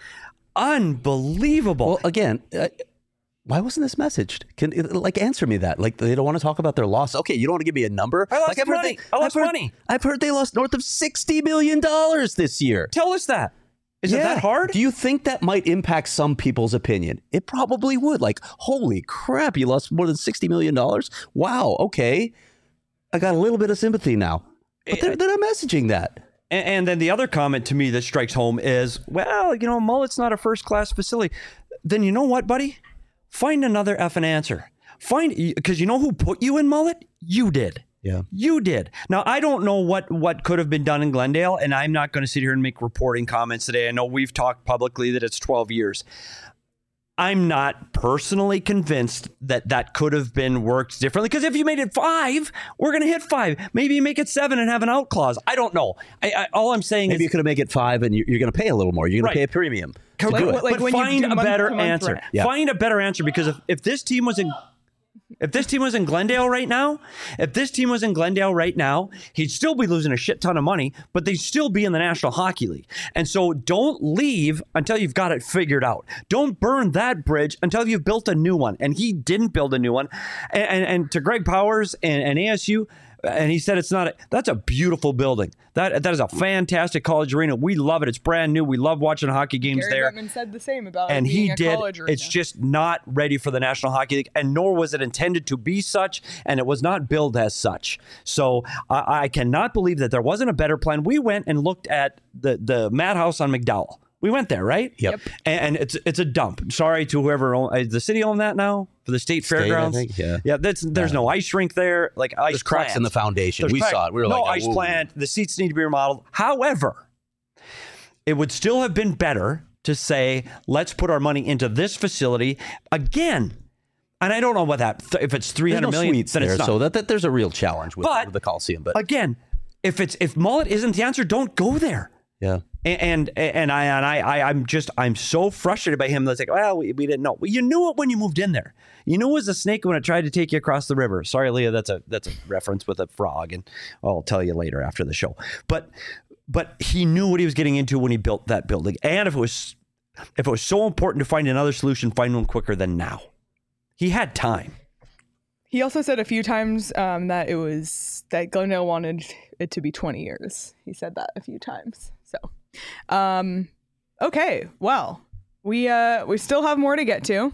Unbelievable. Well, again, uh, why wasn't this messaged? Can like answer me that? Like, they don't want to talk about their loss. Okay, you don't want to give me a number. I lost like, I've money. Heard they, I lost I've heard, money. I've heard they lost north of sixty million dollars this year. Tell us that. Is it that hard? Do you think that might impact some people's opinion? It probably would. Like, holy crap, you lost more than sixty million dollars? Wow, okay. I got a little bit of sympathy now. But they're, they're not messaging that. And, and then the other comment to me that strikes home is, well, you know, Mullet's not a first-class facility. Then you know what, buddy? Find another effing answer. Find, because you know who put you in Mullet? You did. Yeah. You did. Now, I don't know what, what could have been done in Glendale, and I'm not going to sit here and make reporting comments today. I know we've talked publicly that it's twelve years. I'm not personally convinced that that could have been worked differently, because if you made it five, we're going to hit five. Maybe you make it seven and have an out clause. I don't know. I, I, all I'm saying Maybe is... you could have made it five and you're, you're going to pay a little more. You're going Right. to pay a premium. to Like, do it. like but when you find do a month better to month answer. rent. Yeah. Find a better answer, because if, if this team was in... If this team was in Glendale right now, if this team was in Glendale right now, he'd still be losing a shit ton of money, but they'd still be in the National Hockey League. And so don't leave until you've got it figured out. Don't burn that bridge until you've built a new one. And he didn't build a new one. And, and, and to Greg Powers and, and A S U, and he said it's not a, that's a beautiful building. That that is a fantastic college arena. We love it. It's brand new. We love watching hockey games Gary there. Bettman said the same about And it being he a did. college arena. It's just not ready for the National Hockey League, and nor was it intended to be such, and it was not billed as such. So I, I cannot believe that there wasn't a better plan. We went and looked at the the Madhouse on McDowell. We went there, right? Yep. And, and it's it's a dump. Sorry to whoever own, uh, the city own that now for the state, State, I fairgrounds. think, yeah. Yeah. That's there's no ice rink there. Like ice There's cracks plant. in the foundation. There's We crack- saw it. We were no like, ice "Ooh." plant. The seats need to be remodeled. However, it would still have been better to say, let's put our money into this facility again. And I don't know what that, if it's three There's hundred no million, suites then there, it's not. so that, that there's a real challenge with, But- with the Coliseum. But Again, if it's if Mullet isn't the answer, don't go there. yeah, And and, and I and I, I I'm just I'm so frustrated by him. That's like, well, we, we didn't know. Well, you knew it when you moved in there. You knew it was a snake when it tried to take you across the river. Sorry, Leah, that's a that's a reference with a frog, and I'll tell you later after the show. But but he knew what he was getting into when he built that building. And if it was if it was so important to find another solution, find one quicker than now. He had time. He also said a few times um, that it was that Glendale wanted it to be twenty years. He said that a few times. So, um, okay, well, we uh, we still have more to get to.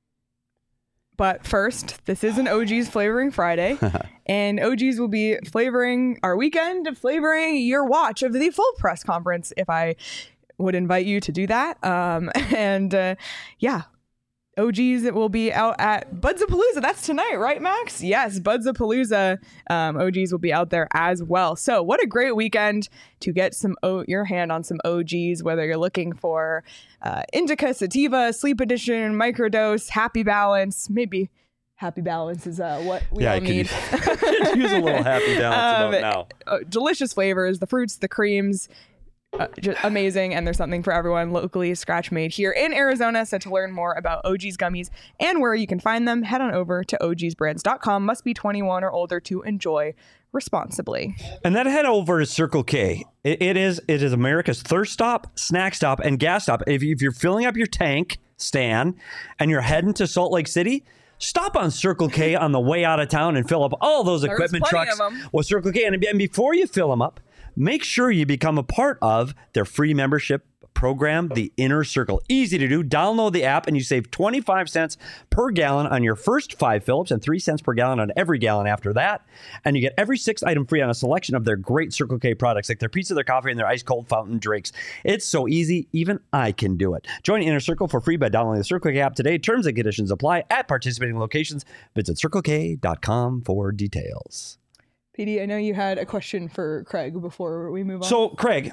But first, this is an O G's Flavoring Friday, and O G's will be flavoring our weekend, flavoring your watch of the full press conference, if I would invite you to do that. Um, and uh, yeah, O G's will be out at Budsapalooza. That's tonight, right, Max? Yes, Budsapalooza. Um, O G's will be out there as well. So what a great weekend to get some o- your hand on some O G's, whether you're looking for uh, Indica, Sativa, Sleep Edition, Microdose, Happy Balance. Maybe Happy Balance is uh, what we Yeah, all I could need. use a little happy balance Um, about now. uh, delicious flavors, the fruits, the creams. Uh, just amazing, and there's something for everyone, locally scratch made here in Arizona. So to learn more about O G's gummies and where you can find them, head on over to O Gs brands dot com. Must be twenty-one or older to enjoy responsibly. And then head over to Circle K. It, it is it is America's thirst stop, snack stop, and gas stop. If, you, if you're filling up your tank, Stan, and you're heading to Salt Lake City, stop on Circle K on the way out of town and fill up all those There's equipment plenty trucks of 'em. with Circle K. And, and before you fill them up, make sure you become a part of their free membership program, the Inner Circle. Easy to do. Download the app and you save twenty-five cents per gallon on your first five fill-ups and three cents per gallon on every gallon after that. And you get every sixth item free on a selection of their great Circle K products, like their pizza, their coffee, and their ice cold fountain drinks. It's so easy, even I can do it. Join Inner Circle for free by downloading the Circle K app today. Terms and conditions apply at participating locations. Visit circle k dot com for details. P D, I know you had a question for Craig before we move on. So, Craig,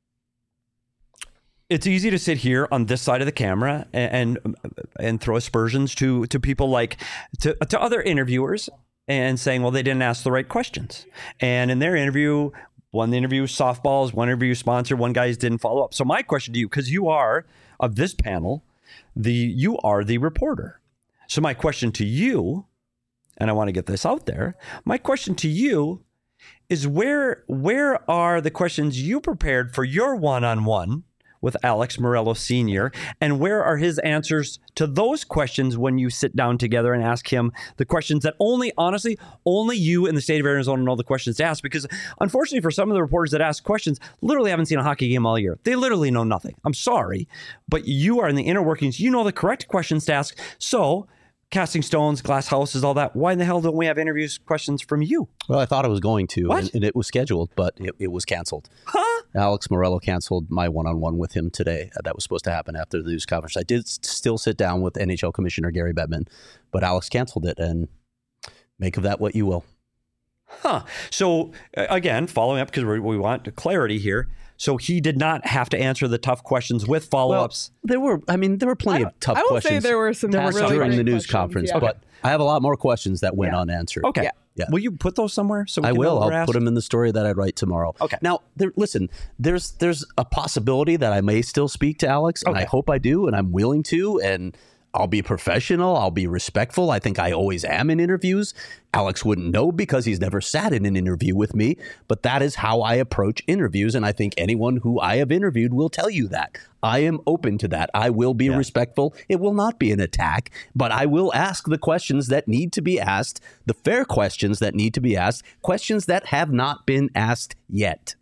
it's easy to sit here on this side of the camera and and, and throw aspersions to to people like to to other interviewers and saying, well, they didn't ask the right questions. And in their interview, one interview softballs, one interview sponsor, one guy didn't follow up. So my question to you, because you are of this panel, the you are the reporter. So my question to you and I want to get this out there. My question to you is where where are the questions you prepared for your one-on-one with Alex Meruelo Senior, and where are his answers to those questions when you sit down together and ask him the questions that only, honestly, only you in the state of Arizona know the questions to ask? Because unfortunately for some of the reporters that ask questions, literally haven't seen a hockey game all year. They literally know nothing. I'm sorry, but you are in the inner workings. You know the correct questions to ask. So casting stones, glass houses, all that. Why in the hell don't we have interviews questions from you? Well, I thought I was going to, What? and, and it was scheduled, but it, it was canceled. Huh? Alex Meruelo canceled my one-on-one with him today. Uh, That was supposed to happen after the news conference. I did s- still sit down with N H L Commissioner Gary Bettman, but Alex canceled it, and make of that what you will. Huh. So uh, again, following up, because we we want clarity here. So he did not have to answer the tough questions with follow-ups. There were, I mean, there were plenty I- of tough I will say questions. there were some there were really during big the news questions, conference, yeah. but I have a lot more questions that went Yeah. unanswered. Okay. Yeah. Yeah. Will you put those somewhere? So we I can know will. what I'll we're put asked? them in the story that I write tomorrow. Okay. Now, there, listen. There's there's a possibility that I may still speak to Alex, and I Okay. hope I do, and I'm willing to, and I'll be professional. I'll be respectful. I think I always am in interviews. Alex wouldn't know because he's never sat in an interview with me, but that is how I approach interviews, and I think anyone who I have interviewed will tell you that. I am open to that. I will be respectful. It will not be an attack, but I will ask the questions that need to be asked, the fair questions that need to be asked, questions that have not been asked yet.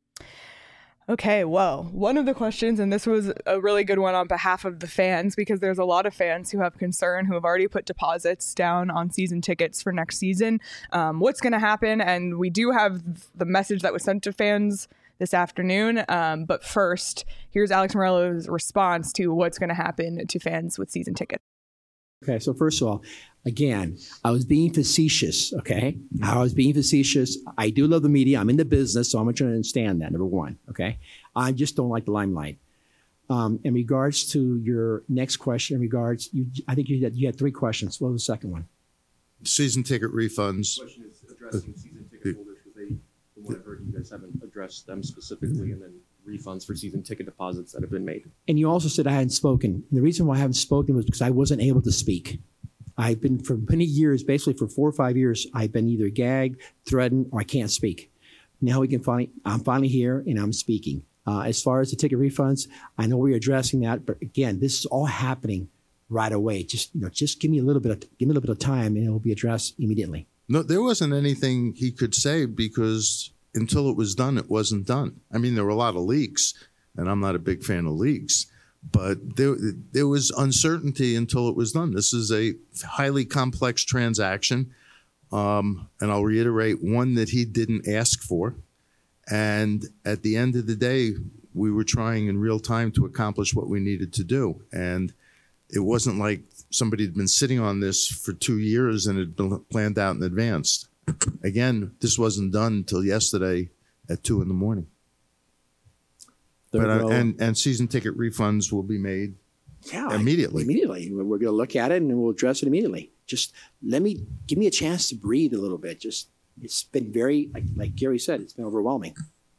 Okay, well, one of the questions, and this was a really good one on behalf of the fans, because there's a lot of fans who have concern, who have already put deposits down on season tickets for next season. Um, what's going to happen? And we do have the message that was sent to fans this afternoon. Um, but first, here's Alex Meruelo's response to what's going to happen to fans with season tickets. Okay, so first of all, again, I was being facetious, okay? I was being facetious. I do love the media. I'm in the business, so I'm trying to understand that, number one, okay? I just don't like the limelight. Um, in regards to your next question, in regards, you, I think you had, you had three questions. What was the second one? Season ticket refunds. The question is addressing season ticket holders because they, from what I've heard, you guys haven't addressed them specifically, and then refunds for season ticket deposits that have been made. And you also said I hadn't spoken. And the reason why I haven't spoken was because I wasn't able to speak. I've been for many years, basically for four or five years, I've been either gagged, threatened, or I can't speak. Now we can finally, I'm finally here and I'm speaking. Uh, as far as the ticket refunds, I know we're addressing that, but again, this is all happening right away. Just, you know, just give me a little bit of, give me a little bit of time and it will be addressed immediately. No, there wasn't anything he could say because until it was done, it wasn't done. I mean, there were a lot of leaks, and I'm not a big fan of leaks, but there, there was uncertainty until it was done. This is a highly complex transaction, um, and I'll reiterate, one that he didn't ask for. And at the end of the day, we were trying in real time to accomplish what we needed to do. And it wasn't like somebody had been sitting on this for two years and had been planned out in advance. Again, this wasn't done until yesterday at two in the morning. But, uh, and, and season ticket refunds will be made Yeah, immediately. Immediately. We're going to look at it and we'll address it immediately. Just let me, give me a chance to breathe a little bit. Just, it's been very, like, like Gary said, it's been overwhelming.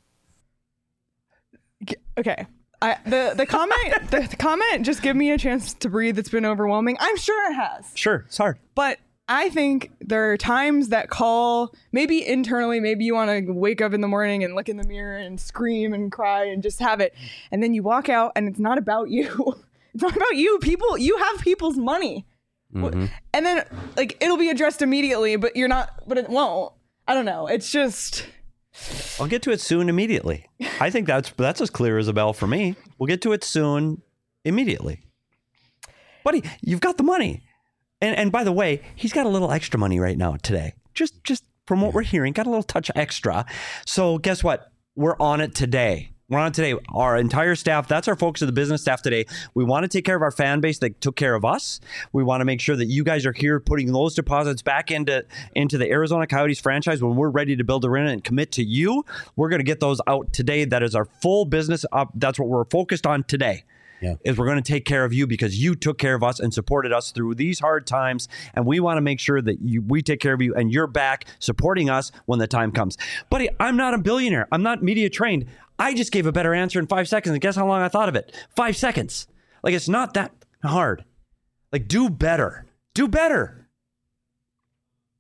Okay. I, the the comment the, the comment just give me a chance to breathe. It's been overwhelming. I'm sure it has. Sure, it's hard. But I think there are times that call, maybe internally, maybe you want to wake up in the morning and look in the mirror and scream and cry and just have it. And then you walk out and it's not about you. It's not about you. People, you have people's money. Mm-hmm. And then like it'll be addressed immediately, but you're not, but it won't. I don't know. It's just... I'll get to it soon, immediately. I think that's that's as clear as a bell for me. We'll get to it soon, immediately. Buddy, you've got the money. And and by the way, he's got a little extra money right now today. Just just from what we're hearing, got a little touch extra. So guess what? We're on it today. We're on it today. Our entire staff, that's our focus of the business staff today. We want to take care of our fan base that took care of us. We want to make sure that you guys are here putting those deposits back into, into the Arizona Coyotes franchise when we're ready to build arena and commit to you. We're going to get those out today. That is our full business up. That's what we're focused on today. Yeah. Is we're going to take care of you because you took care of us and supported us through these hard times. And we want to make sure that you, we take care of you and you're back supporting us when the time comes. Buddy, I'm not a billionaire. I'm not media trained. I just gave a better answer in five seconds. And guess how long I thought of it? Five seconds. Like, it's not that hard. Like, do better. Do better.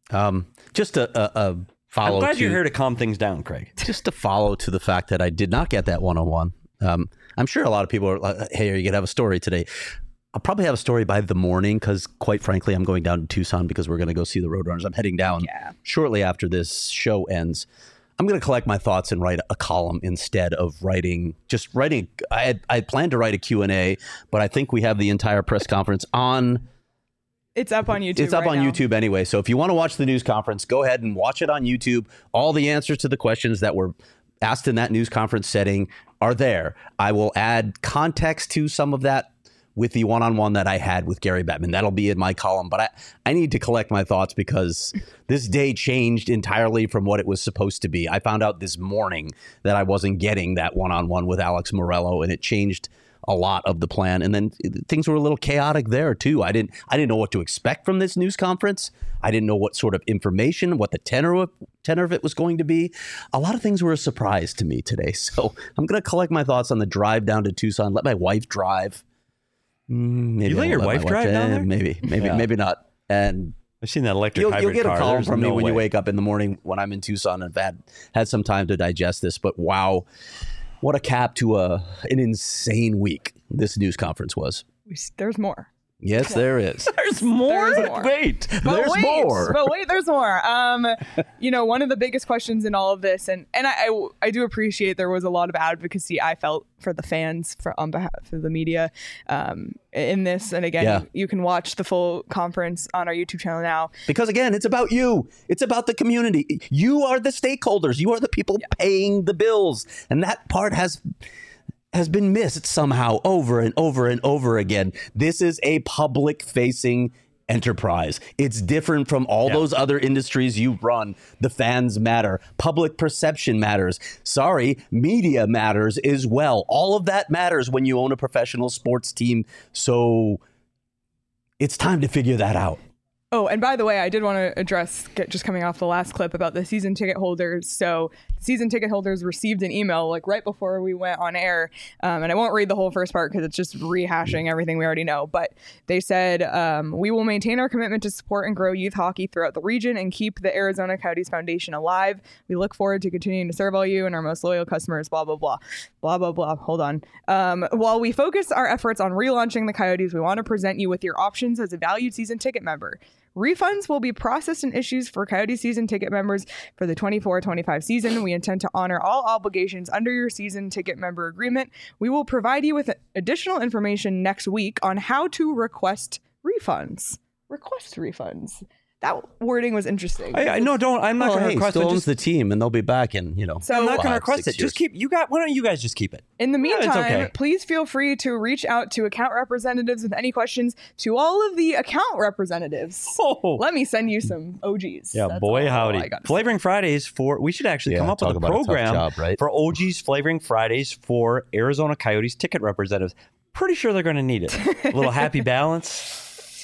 Um, just a, a, a follow. I'm glad to, you're here to calm things down, Craig. Just to follow to the fact that I did not get that one-on-one. Um, I'm sure a lot of people are like, hey, are you going to have a story today? I'll probably have a story by the morning because, quite frankly, I'm going down to Tucson because we're going to go see the Roadrunners. I'm heading down Yeah. shortly after this show ends. I'm going to collect my thoughts and write a column instead of writing, just writing. I had, I had planned to write a Q and A, but I think we have the entire press conference on. It's up on YouTube. It's up right on now. YouTube anyway. So if you want to watch the news conference, go ahead and watch it on YouTube. All the answers to the questions that were asked in that news conference setting are there. I will add context to some of that with the one-on-one that I had with Gary Bettman. That'll be in my column, but I, I need to collect my thoughts because this day changed entirely from what it was supposed to be. I found out this morning that I wasn't getting that one-on-one with Alex Morello, and it changed a lot of the plan. And then things were a little chaotic there too. I didn't I didn't know what to expect from this news conference. I didn't know what sort of information, what the tenor of, tenor of it was going to be. A lot of things were a surprise to me today. So I'm going to collect my thoughts on the drive down to Tucson, let my wife drive. Mm, maybe You let I'll your my wife drive down eh, there? Maybe, maybe, Yeah. maybe not. And I've seen that electric you'll, hybrid you'll get car. a call There's from me no when you way. wake up in the morning when I'm in Tucson and I've had, had some time to digest this. But wow, what a cap to a an insane week this news conference was. We s- There's more. Yes, there is. There's more? There's more. Wait. But There's wait, more. But wait, there's more. Um, you know, one of the biggest questions in all of this, and and I, I I do appreciate there was a lot of advocacy I felt for the fans for on behalf of the media um, in this. And again, Yeah. you, you can watch the full conference on our YouTube channel now. Because again, it's about you. It's about the community. You are the stakeholders. You are the people paying the bills. And that part has has been missed somehow over and over and over again. This is a public facing enterprise. It's different from all Yeah. those other industries you run. The fans matter. Public perception matters. Sorry, media matters as well. All of that matters when you own a professional sports team. So it's time to figure that out. Oh, and by the way, I did want to address, get, just coming off the last clip about the season ticket holders. So season ticket holders received an email like right before we went on air. Um, and I won't read the whole first part because it's just rehashing everything we already know. But they said, um, we will maintain our commitment to support and grow youth hockey throughout the region and keep the Arizona Coyotes Foundation alive. We look forward to continuing to serve all you and our most loyal customers, blah, blah, blah, blah, blah, blah. Hold on. Um, while we focus our efforts on relaunching the Coyotes, we want to present you with your options as a valued season ticket member. Refunds will be processed and issued for Coyote season ticket members for the twenty-four twenty-five season. We intend to honor all obligations under your season ticket member agreement. We will provide you with additional information next week on how to request refunds. Request refunds. That wording was interesting. I, I no, don't. I'm not Well, going to hey, request still it. ons Just, the team, and they'll be back in, you know. So- I'm not going to five, request six it. Just years. keep. You got. Why don't you guys just keep it? In the Yeah, it's meantime, okay. please feel free to reach out to account representatives with any questions to all of the account representatives. Oh. Let me send you some O Gs. Yeah, That's boy, all howdy. I gotta say. Flavoring Fridays for, we should actually Yeah, come up with talk a about a tough program job, right? for O G's Flavoring Fridays for Arizona Coyotes ticket representatives. Pretty sure they're going to need it. A little happy balance.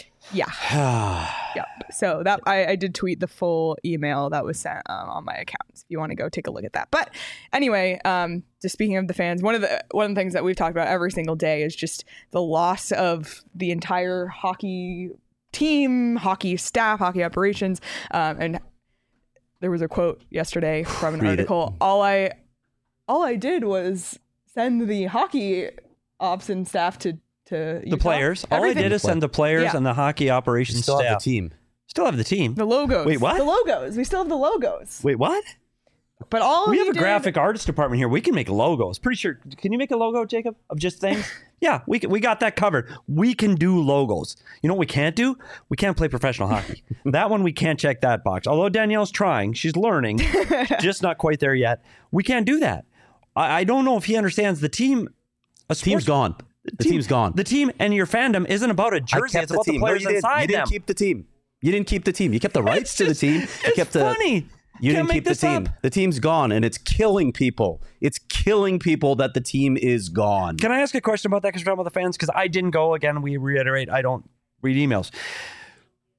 Yeah. Yep. So that I, I did tweet the full email that was sent um, on my account. If you want to go take a look at that. But anyway, um, just speaking of the fans, one of the one of the things that we've talked about every single day is just the loss of the entire hockey team, hockey staff, hockey operations, um, and there was a quote yesterday from an Read it. article. All I all I did was send the hockey ops and staff to to The Utah. players. All I Everything. did is send the players Yeah. and the hockey You operations still staff. have the team. Still have the team. The logos. Wait, what? The logos. We still have the logos. Wait, what? But all We he have a did- graphic artist department here. We can make logos. Pretty sure. Can you make a logo, Jacob, of just things? Yeah, we can, we got that covered. We can do logos. You know what we can't do? We can't play professional hockey. That one we can't check that box. Although Danielle's trying, she's learning, just not quite there yet. We can't do that. I, I don't know if he understands the team. A Team's sports- gone. The team- team's gone. The team and your fandom isn't about a I jersey. kept It's the about team. the No, players you didn't. inside You didn't them. keep the team. You didn't keep the team. You kept the rights to the just- team. You it's kept the funny. You Can't didn't make keep the this team. up. The team's gone, and it's killing people. It's killing people that the team is gone. Can I ask a question about that? Because we're talking about the fans. Because I didn't go. Again, we reiterate, I don't read emails.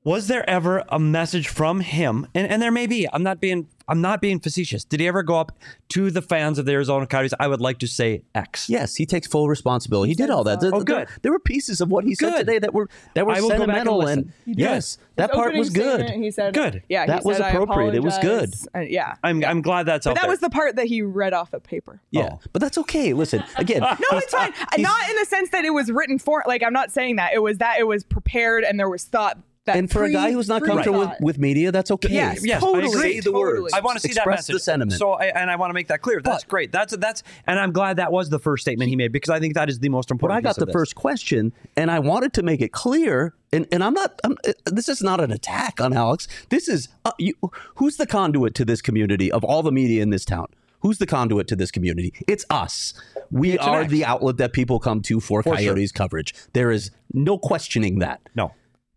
Was there ever a message from him? And, and there may be. I'm not being I'm not being facetious. Did he ever go up to the fans of the Arizona Coyotes? I would like to say X. Yes, he takes full responsibility. He did all that. Oh, There- good. There were pieces of what he said Good. today that were that were I will go back and sentimental, listen. and He did. yes, that His part opening was good. statement, He said, Good. Yeah, That he was said, "I appropriate. It was good." apologize." Uh, yeah. I'm I'm glad that's out But that there. was the part that he read off of paper. Yeah, Oh. but that's okay. Listen, again, No, it's fine. Not in the sense that it was written for. Like, I'm not saying that. It was that it was prepared and there was thought. That and for a pre- guy who's not comfortable with, pre-thought. with media, that's okay. Yes, Yes, I totally. agree. Say the Totally. words. I want to see that Express message. the sentiment. So, I, and I want to make that clear. That's But- great. That's that's, and I'm glad that was the first statement he made because I think that is the most But important. I got piece the of this. first question, and I wanted to make it clear. And, and I'm not. I'm, uh, this is not an attack on Alex. This is uh, you, who's the conduit to this community of all the media in this town. Who's the conduit to this community? It's us. We It's are an X. the outlet that people come to for, For sure. Coyotes coverage. There is no questioning that. No.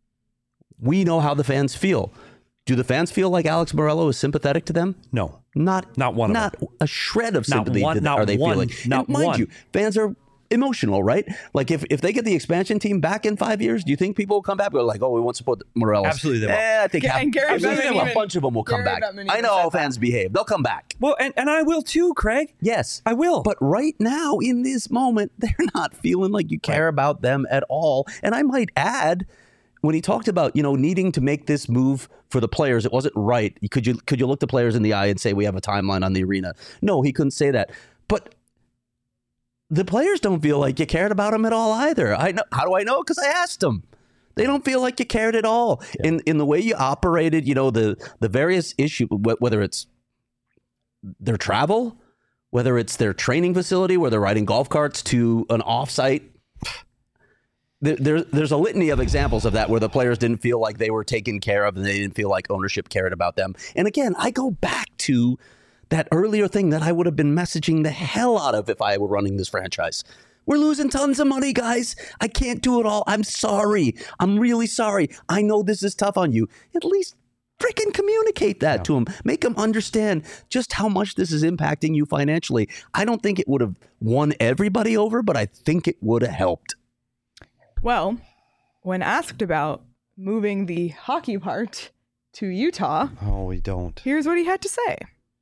We know how the fans feel. Do the fans feel like Alex Morello is sympathetic to them? No. Not, Not one of Not a shred of Not sympathy one- do- not are they one- feeling. not And mind one. you, fans are emotional, right? Like if, if they get the expansion team back in five years, do you think people will come back? They're like, oh, we want to support Morello. Absolutely they will. Eh, I think Yeah, half, and Gary absolutely Bettman they will. even- a bunch of them will come Gary back. Bettman I even know said how that. fans behave. They'll come back. Well, and, and I will too, Craig. Yes, I will. But right now, in this moment, they're not feeling like you care about them at all. And I might add, when he talked about, you know, needing to make this move for the players, it wasn't right. Could you could you look the players in the eye and say we have a timeline on the arena? No, he couldn't say that. But the players don't feel like you cared about them at all either. I know. How do I know? Because I asked them. They don't feel like you cared at all in in the way you operated. You know, the the various issues, whether it's their travel, whether it's their training facility where they're riding golf carts to an offsite. There, there, there's a litany of examples of that where the players didn't feel like they were taken care of and they didn't feel like ownership cared about them. And again, I go back to that earlier thing that I would have been messaging the hell out of if I were running this franchise. We're losing tons of money, guys. I can't do it all. I'm sorry. I'm really sorry. I know this is tough on you. At least freaking communicate that to them. Make them understand just how much this is impacting you financially. I don't think it would have won everybody over, but I think it would have helped. Well, when asked about moving the hockey part to Utah, Oh, we don't. here's what he had to say.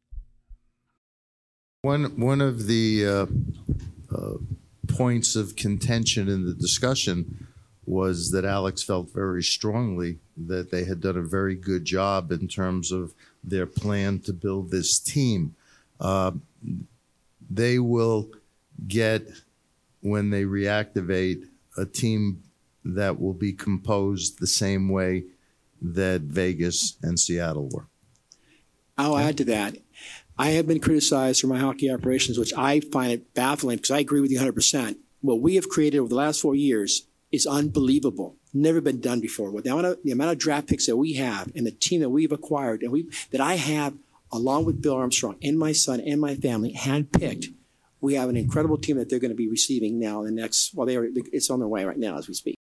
One one of the uh, uh, points of contention in the discussion was that Alex felt very strongly that they had done a very good job in terms of their plan to build this team. Uh, they will get, when they reactivate, a team that will be composed the same way that Vegas and Seattle were. I'll add to that. I have been criticized for my hockey operations, which I find it baffling because I agree with you one hundred percent. What we have created over the last four years is unbelievable. Never been done before. With the amount of, the amount of draft picks that we have and the team that we've acquired and we that I have, along with Bill Armstrong and my son and my family, handpicked, we have an incredible team that they're going to be receiving now in the next, well, they are, it's on their way right now as we speak.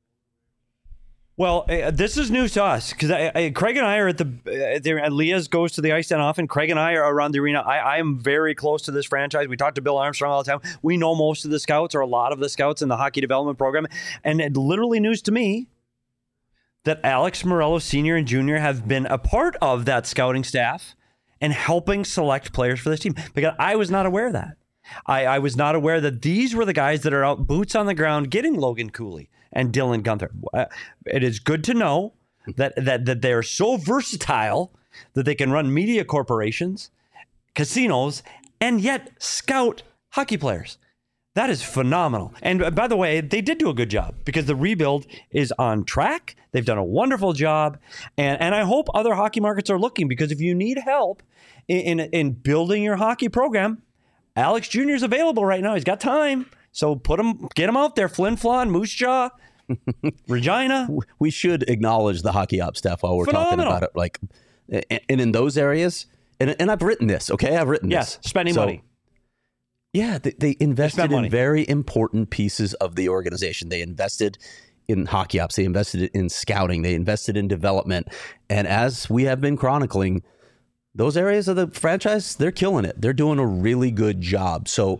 Well, uh, this is news to us because I, I, Craig and I are at the. Uh, there, Leah's goes to the ice den often. Craig and I are around the arena. I, I am very close to this franchise. We talk to Bill Armstrong all the time. We know most of the scouts or a lot of the scouts in the hockey development program, and it literally news to me that Alex Morello Senior and Junior have been a part of that scouting staff and helping select players for this team because I was not aware of that. I, I was not aware that these were the guys that are out boots on the ground getting Logan Cooley and Dylan Gunther. Uh, it is good to know that that that they are so versatile that they can run media corporations, casinos, and yet scout hockey players. That is phenomenal. And uh, by the way, they did do a good job because the rebuild is on track. They've done a wonderful job. And, and I hope other hockey markets are looking because if you need help in, in, in building your hockey program, Alex Junior is available right now. He's got time. So put him, get him out there. Flin Flon, Moose Jaw, Regina. We should acknowledge the hockey ops staff while we're Phenomenal. talking about it. Like, and in those areas, and, and I've written this, okay? I've written Yes, this. spending So, money. Yeah, they, they invested spent money. in very important pieces of the organization. They invested in hockey ops. They invested in scouting. They invested in development. And as we have been chronicling, those areas of the franchise, they're killing it. They're doing a really good job. So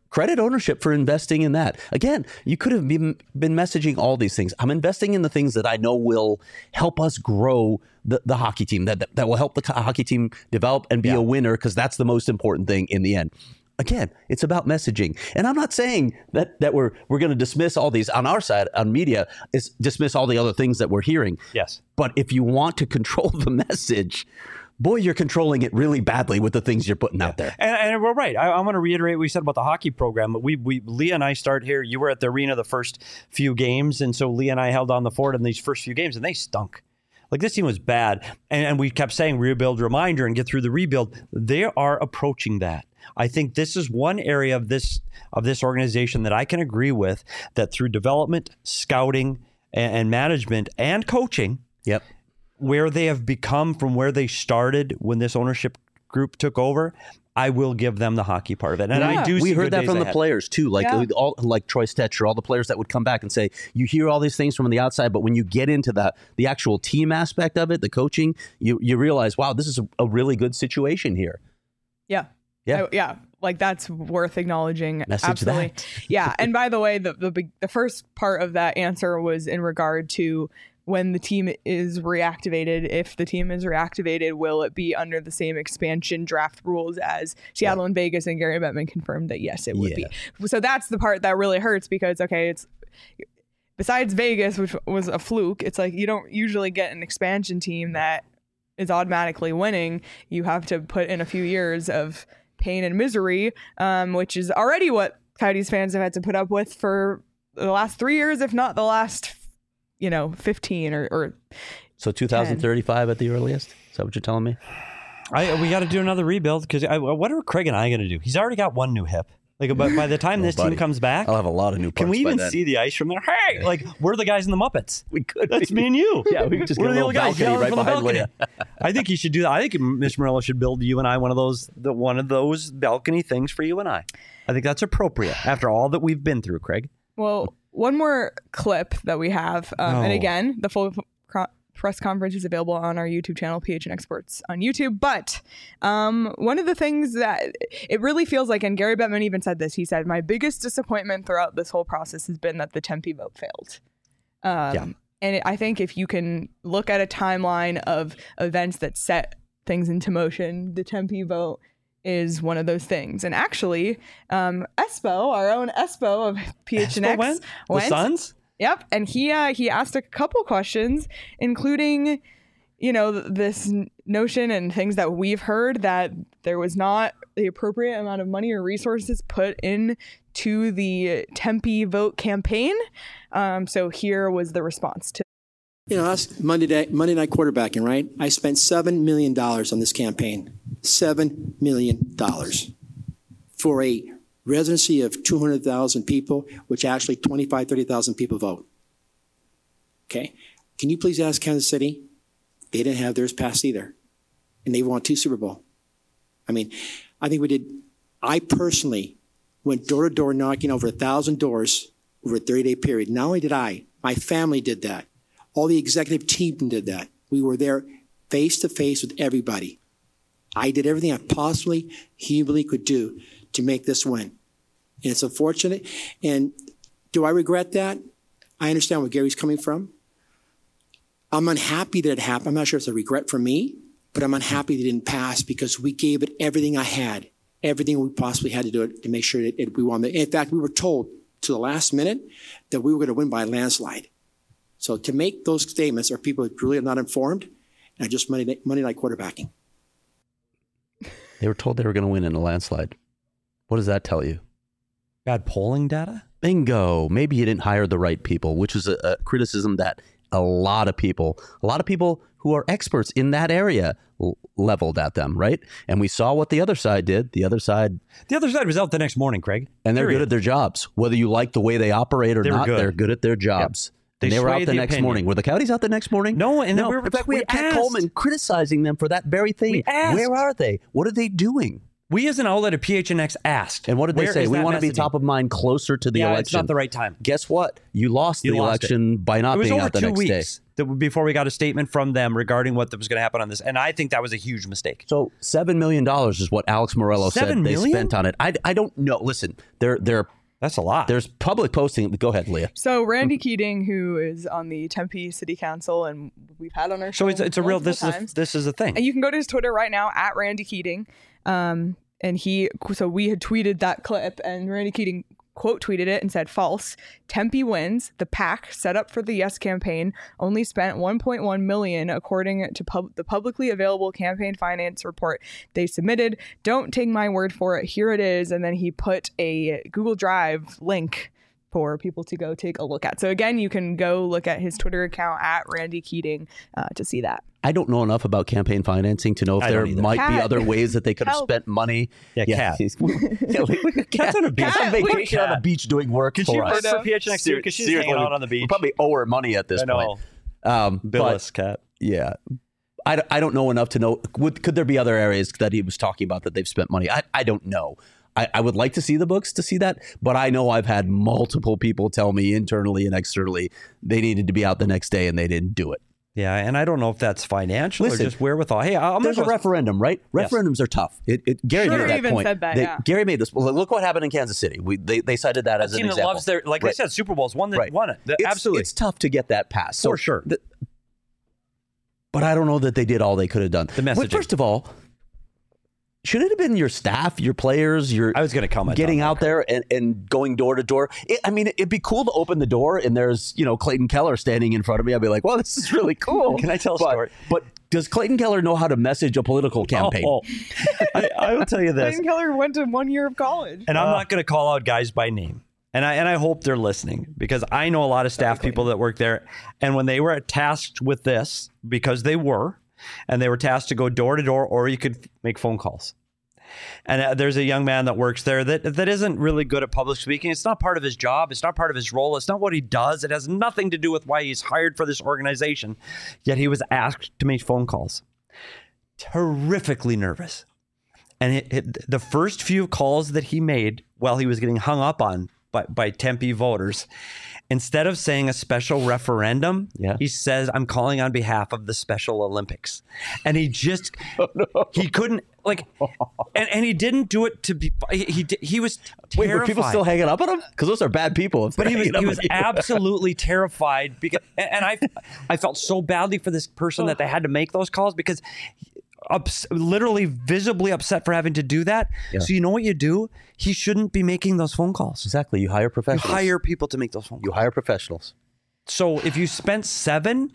Credit ownership for investing in that. Again, you could have been, been messaging all these things. I'm investing in the things that I know will help us grow the, the hockey team, that, that, that will help the hockey team develop and be Yeah. a winner, because that's the most important thing in the end. Again, it's about messaging. And I'm not saying that that we're we're going to dismiss all these on our side, on media, is dismiss all the other things that we're hearing. Yes. But if you want to control the message, boy, you're controlling it really badly with the things you're putting out there. And, and we're right. I, I want to reiterate what we said about the hockey program. We, we, Leah and I start here. You were at the arena the first few games, and so Leah and I held on the fort in these first few games, and they stunk. Like, this team was bad, and, and we kept saying rebuild, reminder, and get through the rebuild. They are approaching that. I think this is one area of this of this organization that I can agree with, that through development, scouting, and, and management, and coaching, Yep. where they have become from where they started when this ownership group took over, I will give them the hockey part of it. And Yeah. I do We see heard good that days from the ahead. players too, like Yeah. all like Troy Stetcher, all the players that would come back and say, you hear all these things from the outside, but when you get into the the actual team aspect of it, the coaching, you you realize, wow, this is a, a really good situation here. Yeah. Yeah. I- yeah. Like, that's worth acknowledging. Message Absolutely. that. Yeah. And by the way, the, the big- the first part of that answer was in regard to when the team is reactivated. If the team is reactivated, will it be under the same expansion draft rules as Seattle and Vegas? And Gary Bettman confirmed that yes, it would Yeah. be. So that's the part that really hurts, because, okay, it's besides Vegas, which was a fluke, it's like you don't usually get an expansion team that is automatically winning. You have to put in a few years of pain and misery, um, which is already what Coyotes fans have had to put up with for the last three years, if not the last, you know, fifteen or, or So two thousand thirty-five at the earliest? Is that what you're telling me? I, we got to do another rebuild, because what are Craig and I going to do? He's already got one new hip. Like, by, by the time Oh, this buddy. team comes back, I'll have a lot of new parts can we by even then. see the ice from there? Hey, like, we're the guys in the Muppets. We could. That's be. me and you. Yeah, we could just We're get a the little little guys balcony yelling right from the behind balcony. Leah. I think you should do that. I think Miss Murillo should build you and I one of those, the, one of those balcony things for you and I. I think that's appropriate after all that we've been through, Craig. well, one more clip that we have, um, and No. again, the full co- press conference is available on our YouTube channel, P H N Experts on YouTube. But um, one of the things that it really feels like, and Gary Bettman even said this, he said, my biggest disappointment throughout this whole process has been that the Tempe vote failed. Um, Yeah. And it, I think if you can look at a timeline of events that set things into motion, the Tempe vote is one of those things. And actually, um, Espo, our own Espo of P H N X, Espo went? The went. Suns? Yep, and he uh, he asked a couple questions, including, you know, th- this n- notion and things that we've heard that there was not the appropriate amount of money or resources put in to the Tempe vote campaign. Um, so here was the response to. You know, that's Monday night, Monday night quarterbacking, right? I spent seven million dollars on this campaign. seven million dollars for a residency of two hundred thousand people, which actually twenty-five, thirty thousand people vote. Okay? Can you please ask Kansas City? They didn't have theirs passed either. And they won two Super Bowl. I mean, I think we did, I personally went door to door knocking over a thousand doors over a thirty day period. Not only did I, my family did that. All the executive team did that. We were there face to face with everybody. I did everything I possibly humanly could do to make this win. And it's unfortunate. And do I regret that? I understand where Gary's coming from. I'm unhappy that it happened. I'm not sure it's a regret for me, but I'm unhappy that it didn't pass because we gave it everything I had, everything we possibly had to do it to make sure that it, we won. In fact, we were told to the last minute that we were going to win by a landslide. So to make those statements are people who really are not informed and just Monday night, Monday night quarterbacking. They were told they were going to win in a landslide. What does that tell you? Bad polling data? Bingo. Maybe you didn't hire the right people, which is a, a criticism that a lot of people, a lot of people who are experts in that area l- leveled at them, right? And we saw what the other side did. The other side, The other side was out the next morning, Craig. and they're Period. good at their jobs. Whether you like the way they operate or They were not, good. they're good at their jobs. They And they were out swayed the the next opinion. morning. Were the Coyotes out the next morning? No, and no. we were- In fact, we we had Pat asked. Coleman criticizing them for that very thing. We asked. Where are they? What are they doing? We as an outlet at P H N X asked. And what did they where say? is We that want to be messaging? top of mind closer to the Yeah, election. it's not the right time. Guess what? You lost You the lost election by not It was being over out the two next day. weeks that, before we got a statement from them regarding what was going to happen on this. And I think that was a huge mistake. So seven million dollars is what Alex Morello said Seven they million? spent on it. I, I don't know. Listen, they're they're That's a lot. there's public posting. Go ahead, Leah. So Randy Keating, who is on the Tempe City Council, and we've had on our show so it's, it's a real, this multiple is, times. a, this is a thing. And you can go to his Twitter right now at Randy Keating. Um, and he, so we had tweeted that clip, and Randy Keating quote tweeted it and said, false. Tempe wins. The PAC set up for the Yes campaign only spent one point one million according to pub- the publicly available campaign finance report they submitted. Don't take my word for it. Here it is. And then he put a Google Drive link for people to go take a look at. So again, you can go look at his Twitter account at Randy Keating uh, to see that. I don't know enough about campaign financing to know if I there don't either. might be Cat. other ways that they could have Help. spent money. Yeah, Cat. he's- yeah, like, Cat's on a beach. Cat, on we- vacation on the beach doing work Could for you us. work for P H N X too? Because she's Seriously, hanging out we- on the beach. We probably owe her money at this I know. point. Um, Billis, but, Cat. yeah. I, don't- I don't know enough to know. Would, could there be other areas that he was talking about that they've spent money? I, I don't know. I, I would like to see the books to see that, but I know I've had multiple people tell me internally and externally they needed to be out the next day and they didn't do it. Yeah, and I don't know if that's financial Listen, or just wherewithal. Hey, I'm There's a gonna go, referendum, right? Yes. Referendums are tough. It, it, Gary Sure, made that even point. said that, They- yeah. Gary made this. Well, look what happened in Kansas City. We, they, they cited that as a an team that example. loves their, like I Right. said, Super Bowl's one that Right. won it. The- It's- Absolutely. It's tough to get that passed. For sure. the- but I don't know that they did all they could have done. The Well, messaging. first of all, should it have been your staff, your players, your I was going to comment getting on that. out there and, and going door to door? It- I mean, it'd be cool to open the door and there's, you know, Clayton Keller standing in front of me. I'd be like, well, this is really cool. Can I tell a But- story? But does Clayton Keller know how to message a political campaign? Oh, I, I will tell you this. Clayton Keller went to one year of college. And I'm not going to call out guys by name. And I and I hope they're listening because I know a lot of staff people that work there. And when they were tasked with this, because they were, and they were tasked to go door to door, or you could make phone calls. And uh, there's a young man that works there that that isn't really good at public speaking. It's not part of his job. It's not part of his role. It's not what he does. It has nothing to do with why he's hired for this organization. Yet he was asked to make phone calls. Terrifically nervous. And it, it, the first few calls that he made while he was getting hung up on by, by Tempe voters, instead of saying a special referendum, Yeah. he says, I'm calling on behalf of the Special Olympics. And he just, Oh, he couldn't, like, and, and he didn't do it to be, he, he, he was Wait, terrified. were people still hanging up on him? Because those are bad people. if But they're he was hanging up he was on you. absolutely terrified because, and, and I I felt so badly for this person that they had to make those calls because ups, literally visibly upset for having to do that. Yeah. So you know what you do? He shouldn't be making those phone calls. Exactly. You hire You professionals. hire people to make those phone calls. You hire professionals. So if you spent seven,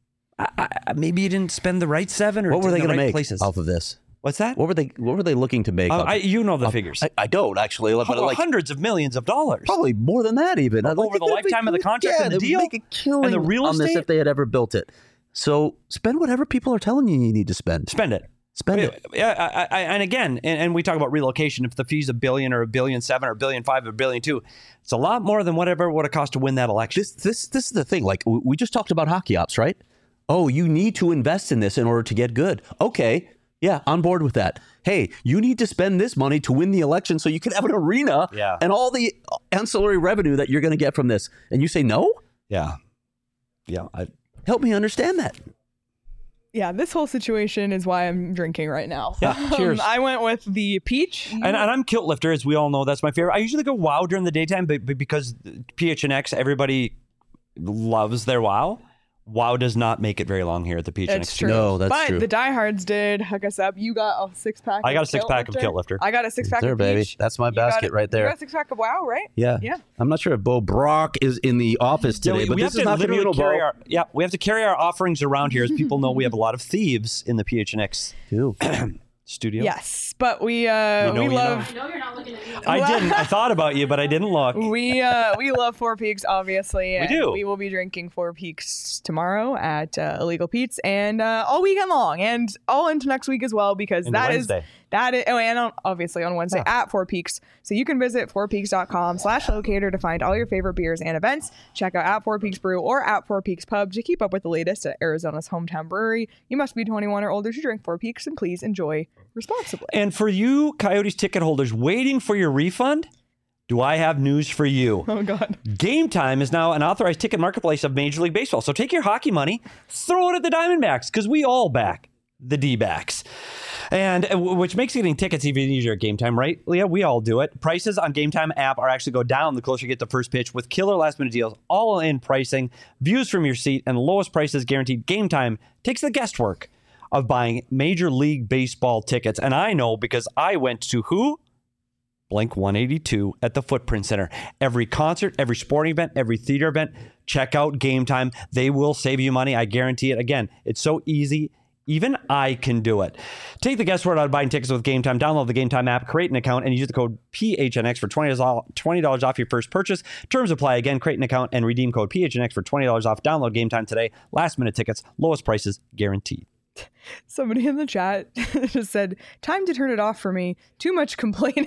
I, I, maybe you didn't spend the right seven or What were in they the going right to make places. off of this? What's that? What were they? What were they looking to make? Uh, off I, of- you know the off- figures. I, I don't actually, but Oh, like hundreds of millions of dollars. probably more than that even. I'd like Over to the think lifetime of the they'd- contract yeah, and the they'd deal? make a killing And the real on this estate? if they had ever built it. So spend whatever people are telling you you need to spend. Spend it. Spend it. Yeah, I, I, and again, and, and we talk about relocation. If the fee's a billion or a billion seven or a billion five or a billion two, it's a lot more than whatever it would have cost to win that election. This this this is the thing. Like we we just talked about hockey ops, right? Oh, you need to invest in this in order to get good. Okay. Yeah, on board with that. Hey, you need to spend this money to win the election so you can have an arena Yeah. and all the ancillary revenue that you're going to get from this. And you say no? Yeah, yeah. I, Help me understand that. Yeah, this whole situation is why I'm drinking right now. Yeah, cheers. I went with the peach. and, and I'm kilt lifter, as we all know. That's my favorite. I usually go WoW during the daytime, but, but because P H N X, everybody loves their WoW. WoW does not make it very long here at the P H N X. It's true. No, that's but true. the diehards did hook us up. You got a six pack. I got of a six pack of Kilt Lifter. I got a six pack There, of baby. peach. That's my You got basket a- right there. You got a six pack of WoW, right? Yeah. Yeah. I'm not sure if Bo Brock is in the office Yeah, today, we, but we this have is to not literally communal, carry Bo. our yeah. We have to carry our offerings around here, as people know we have a lot of thieves in the P H N X Too. studio. Yes, but we uh You know we you love No, you're not looking at me. I didn't. I thought about you, but I didn't look. we uh we love Four Peaks, obviously. and do. We will be drinking Four Peaks tomorrow at uh, Illegal Pete's and uh, all weekend long and all into next week as well because Into that is Wednesday. That is, oh, and on, obviously on Wednesday Yeah. at Four Peaks. So you can visit fourpeaks.com slash locator to find all your favorite beers and events. Check out at Four Peaks Brew or at Four Peaks Pub to keep up with the latest at Arizona's hometown brewery. You must be twenty-one or older to drink Four Peaks, and please enjoy responsibly. And for you Coyotes ticket holders waiting for your refund, do I have news for you? Oh, God. Game Time is now an authorized ticket marketplace of Major League Baseball. So take your hockey money, throw it at the Diamondbacks, because we all back the D-backs. And uh, which makes getting tickets even easier at Game Time, right, Leah? We all do it. Prices on Game Time app are actually go down the closer you get to first pitch with killer last-minute deals, all-in pricing, views from your seat, and lowest prices guaranteed. Game Time takes the guesswork of buying Major League Baseball tickets. And I know because I went to who? Blink one eighty-two at the Footprint Center. Every concert, every sporting event, every theater event, check out Game Time. They will save you money. I guarantee it. Again, it's so easy. Even I can do it. Take the guesswork out of buying tickets with Game Time. Download the Game Time app, create an account, and use the code P H N X for twenty dollars off your first purchase. Terms apply. Again, create an account and redeem code P H N X for twenty dollars off. Download Game Time today. Last minute tickets, lowest prices guaranteed. Somebody in the chat just said, time to turn it off for me. Too much complaining.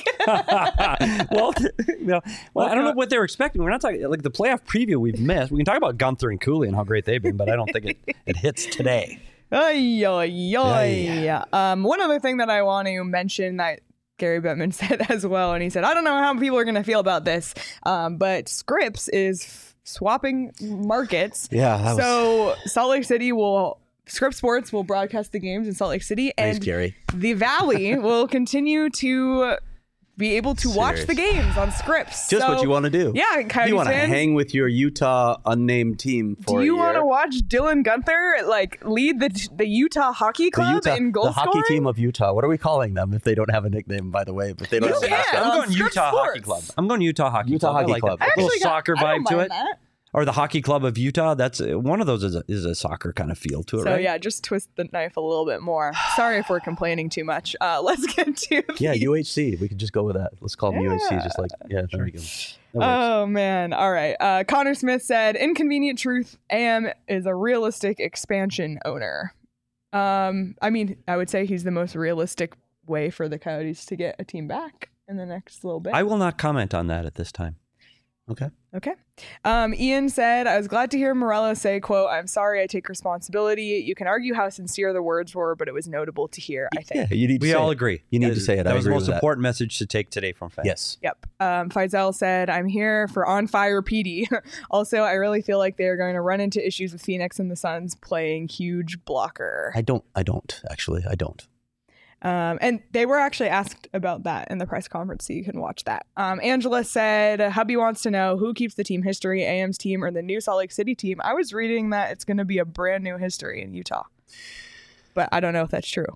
well, you know, well, I don't know what they were expecting. We're not talking like the playoff preview we've missed. We can talk about Gunther and Cooley and how great they've been, but I don't think it, it hits today. Ay, ay, ay. Ay. Um, one other thing that I want to mention that Gary Bettman said as well, and he said, I don't know how people are going to feel about this, um, but Scripps is f- swapping markets. Yeah, that was- So Salt Lake City will... Scripps Sports will broadcast the games in Salt Lake City, Nice, and Gary. the Valley will continue to be able to watch Serious. the games on Scripps. Just So, what you want to do. Yeah, If Coyotes you want to fans, hang with your Utah unnamed team for do you a want to year. watch Dylan Gunther like lead the the Utah Hockey The Club Utah, in goal the hockey scoring? team of Utah. What are we calling them if they don't have a nickname, by the way? But they don't You have a can. mascot. on I'm going Scripps Utah Hockey Sports. Club. I'm going Utah Hockey Utah Club. I Hockey like Club. that. I A little actually got- soccer I don't vibe to mind it. that. Or the Hockey Club of Utah. That's uh, one of those is a, is a soccer kind of feel to it, So right? yeah, just twist the knife a little bit more. Sorry if we're complaining too much. Uh, let's get to the, Yeah, U H C. We could just go with that. Let's call them U H C. Just like, yeah, there we go. That works. Oh man! All right. Uh, Connor Smith said, "Inconvenient truth. A M is a realistic expansion owner." Um, I mean, I would say he's the most realistic way for the Coyotes to get a team back in the next little bit. I will not comment on that at this time. Okay. Okay. Um, Ian said, I was glad to hear Morello say, quote, I'm sorry, I take responsibility. You can argue how sincere the words were, but it was notable to hear, I think. Yeah, you need to We say all it. agree. You need That to is- say it. That I was the agree most with that. important message to take today from fans. Yes. Yep. Um, Faisal said, I'm here for on fire P D. Also, I really feel like they're going to run into issues with Phoenix and the Suns playing huge blocker. I don't. I don't actually. I don't. Um, and they were actually asked about that in the press conference, so you can watch that. Um, Angela said, hubby wants to know who keeps the team history, A M's team or the new Salt Lake City team. I was reading that it's going to be a brand new history in Utah, but I don't know if that's true.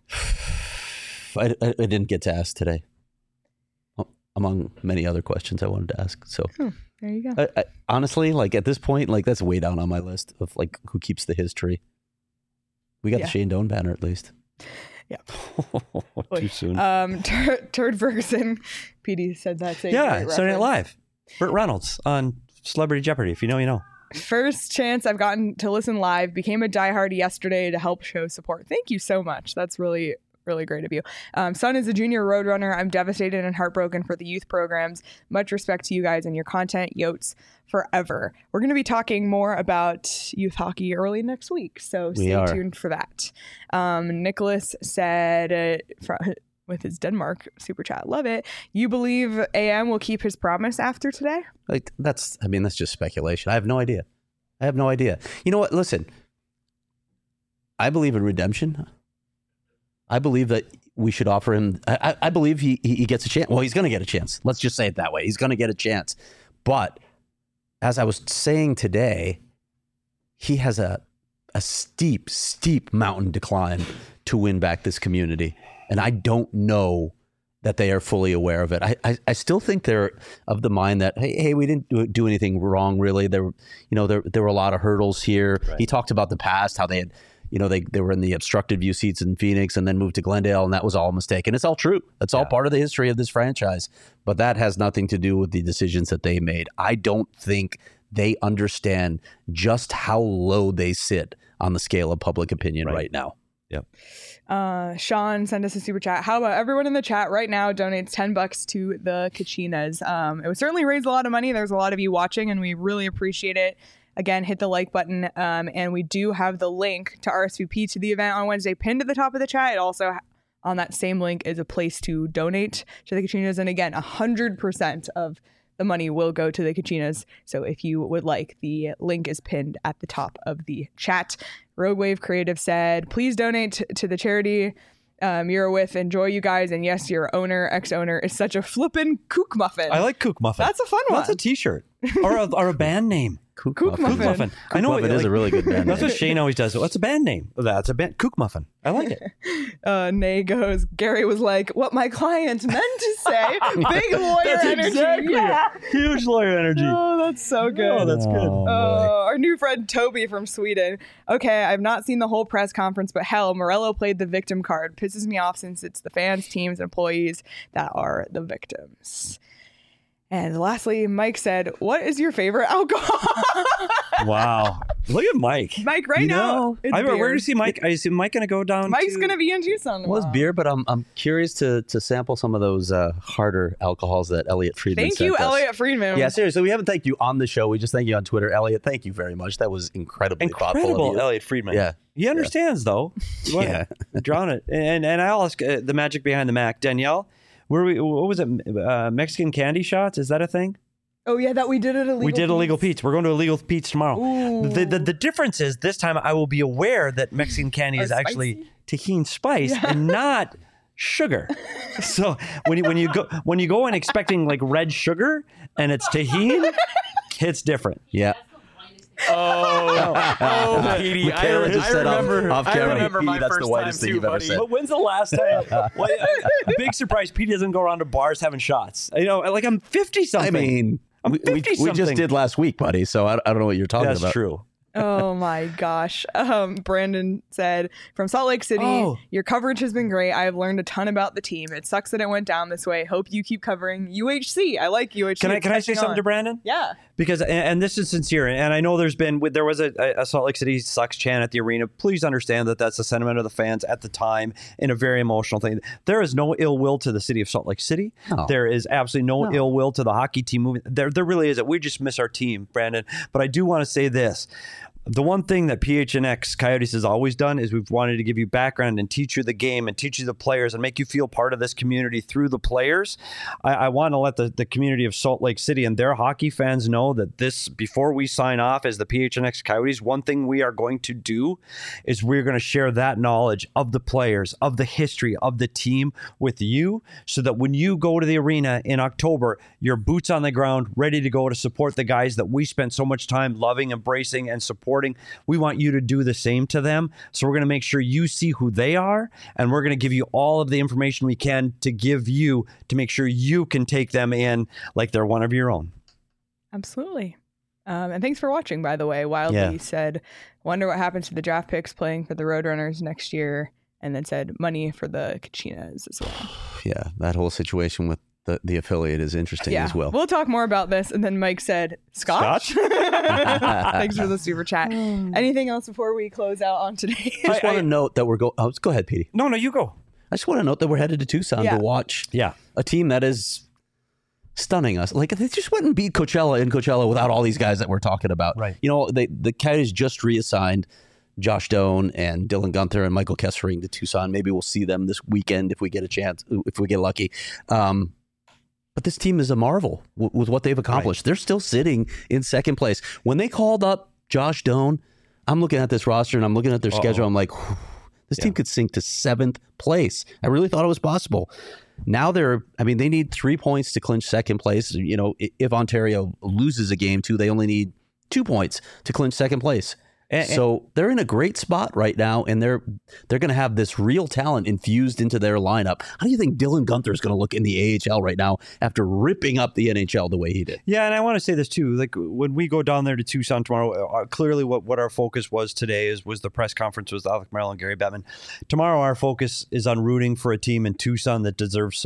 I, I, I didn't get to ask today, among many other questions I wanted to ask. So There you go. I, I, honestly, like at this point, like that's way down on my list of like who keeps the history. We got Yeah. the Shane Doan banner at least. Too soon. Um, Tur- Turd Ferguson, P D said that's a yeah, great Saturday Night reference. Live. Burt Reynolds on Celebrity Jeopardy. If you know, you know. First chance I've gotten to listen live. Became a diehard yesterday to help show support. Thank you so much. That's really, really great of you. Um, son is a junior roadrunner. I'm devastated and heartbroken for the youth programs. Much respect to you guys and your content. Yotes forever. We're going to be talking more about youth hockey early next week, so We stay are. tuned for that. Um, Nicholas said uh, fr- with his Denmark super chat, love it. You believe A M will keep his promise after today? Like that's. I mean, that's just speculation. I have no idea. I have no idea. You know what? Listen, I believe in redemption. I believe that we should offer him. I, I I believe he he he gets a chance. Well, he's going to get a chance. Let's just say it that way. He's going to get a chance. But as I was saying today, he has a a steep, steep mountain to climb to win back this community, and I don't know that they are fully aware of it. I, I, I still think they're of the mind that, hey, hey, we didn't do, do anything wrong, really. There, you know, there there were a lot of hurdles here. Right. He talked about the past, how they had, you know, they, they were in the obstructed view seats in Phoenix and then moved to Glendale, and that was all a mistake. And it's all true. That's all Yeah. part of the history of this franchise. But that has nothing to do with the decisions that they made. I don't think they understand just how low they sit on the scale of public opinion Right. right now. Yep. Uh, Sean sent us a super chat. How about everyone in the chat right now donates ten bucks to the Kachinas? Um, it would certainly raise a lot of money. There's a lot of you watching, and we really appreciate it. Again, hit the like button. Um, and we do have the link to R S V P to the event on Wednesday pinned to the top of the chat. It also, on that same link, is a place to donate to the Kachinas. And again, one hundred percent of the money will go to the Kachinas. So if you would like, the link is pinned at the top of the chat. Rogue Wave Creative said, please donate t- to the charity um, you're with. Enjoy, you guys. And yes, your owner, ex-owner, is such a flippin' kook muffin. I like Kook Muffin. That's a fun one. That's a t-shirt. or, a, or a band name. Kook, Kook Muffin. Muffin. Kook Muffin. Kook I know Muffin it, is like- a really good band That's name. what Shane always does. What's a band name? That's a band. Kook Muffin. I like it. Uh, Nay goes, Gary was like, what my client meant to say. Big lawyer That's energy. exactly Yeah. it. Huge lawyer energy. Oh, that's so good. Oh, that's good. Oh, Oh, our new friend Toby from Sweden. Okay, I've not seen the whole press conference, but hell, Morello played the victim card. Pisses me off since it's the fans, teams, and employees that are the victims. And lastly, Mike said, what is your favorite alcohol? Wow. Look at Mike. Mike, right You now, know, it's I, beer. where do you see Mike? I see Mike going to go down. Mike's to- going to be in Tucson Well, it's tomorrow. beer, but I'm I'm curious to to sample some of those uh, harder alcohols that Elliot Friedman Thank sent you, us. Elliot Friedman. Yeah, seriously, we haven't thanked you on the show. We just thank you on Twitter. Elliot, thank you very much. That was incredibly thoughtful of Incredible, you. Elliot Friedman. Yeah. He understands, though. Yeah. Drawn it. And and I'll ask uh, the magic behind the Mac. Danielle, were we, what was it? Uh, Mexican candy shots? Is that a thing? Oh, yeah, that we did it illegal. we did illegal Pete's. We're going to illegal Pete's tomorrow. Ooh. The, the the difference is this time I will be aware that Mexican candy Are is actually spicy? tahini spice and not sugar. So when you when you go when you go in expecting like red sugar and it's tahini, it's different. Yeah. Oh, oh, Petey, I, Michaela just I said off- remember. off I camera, remember Petey, my that's the first whitest time thing too, you've ever buddy. said. But when's the last time? Well, a, a big surprise. Pete doesn't go around to bars having shots. You know, like I'm fifty I something. mean, I'm we, we, we just fifty-something. did last week, buddy, so I, I don't know what you're talking that's about. true. Oh my gosh. Um, Brandon said, from Salt Lake City, Oh. your coverage has been great. I have learned a ton about the team. It sucks that it went down this way. Hope you keep covering U H C. I like U H C. Can I It's can I say catching something on. to Brandon? Yeah. Because and, and this is sincere, and I know there's been there was a, a Salt Lake City sucks chant at the arena. Please understand that that's the sentiment of the fans at the time in a very emotional thing. There is no ill will to the city of Salt Lake City. No. There is absolutely no, ill will to the hockey team moving. There there really isn't. We just miss our team, Brandon. But I do want to say this. The one thing that P H N X Coyotes has always done is we've wanted to give you background and teach you the game and teach you the players and make you feel part of this community through the players. I, I want to let the, the community of Salt Lake City and their hockey fans know that this, before we sign off as the P H N X Coyotes, one thing we are going to do is we're going to share that knowledge of the players, of the history of the team with you, so that when you go to the arena in October, you're boots on the ground, ready to go to support the guys that we spent so much time loving, embracing, and supporting. We want you to do the same to them. So we're going to make sure you see who they are, and we're going to give you all of the information we can to give you to make sure you can take them in like they're one of your own. Absolutely. Um, and thanks for watching, by the way. Wildly Yeah. said, wonder what happens to the draft picks playing for the Roadrunners next year. And then said, money for the Kachinas as well. Yeah, that whole situation with the, the affiliate is interesting Yeah, as well. we'll talk more about this. And then Mike said, Scotch? Thanks for the super chat. Anything else before we close out on today? just I- want I- to note that we're going. Oh, go ahead, Petey. No, no, you go. I just want to note that we're headed to Tucson Yeah. to watch Yeah. a team that is stunning us. Like they just went and beat Coachella in Coachella without all these guys that we're talking about. Right. You know, they the Coyotes just reassigned Josh Doan and Dylan Gunther and Michael Kessering to Tucson. Maybe we'll see them this weekend if we get a chance, if we get lucky. Um, but this team is a marvel w- with what they've accomplished. They're still sitting in second place. When they called up Josh Doan, I'm looking at this roster and I'm looking at their schedule. I'm like, whew, this team could sink to seventh place. I really thought it was possible. Now they're, I mean, they need three points to clinch second place. You know, i- if Ontario loses a game too, they only need two points to clinch second place. And- So they're in a great spot right now, and they're they're going to have this real talent infused into their lineup. How do you think Dylan Gunther is going to look in the A H L right now after ripping up the N H L the way he did? Yeah, and I want to say this too. Like when we go down there to Tucson tomorrow, uh, clearly what, what our focus was today is was the press conference with Alec Merrill and Gary Bettman. Tomorrow, our focus is on rooting for a team in Tucson that deserves support.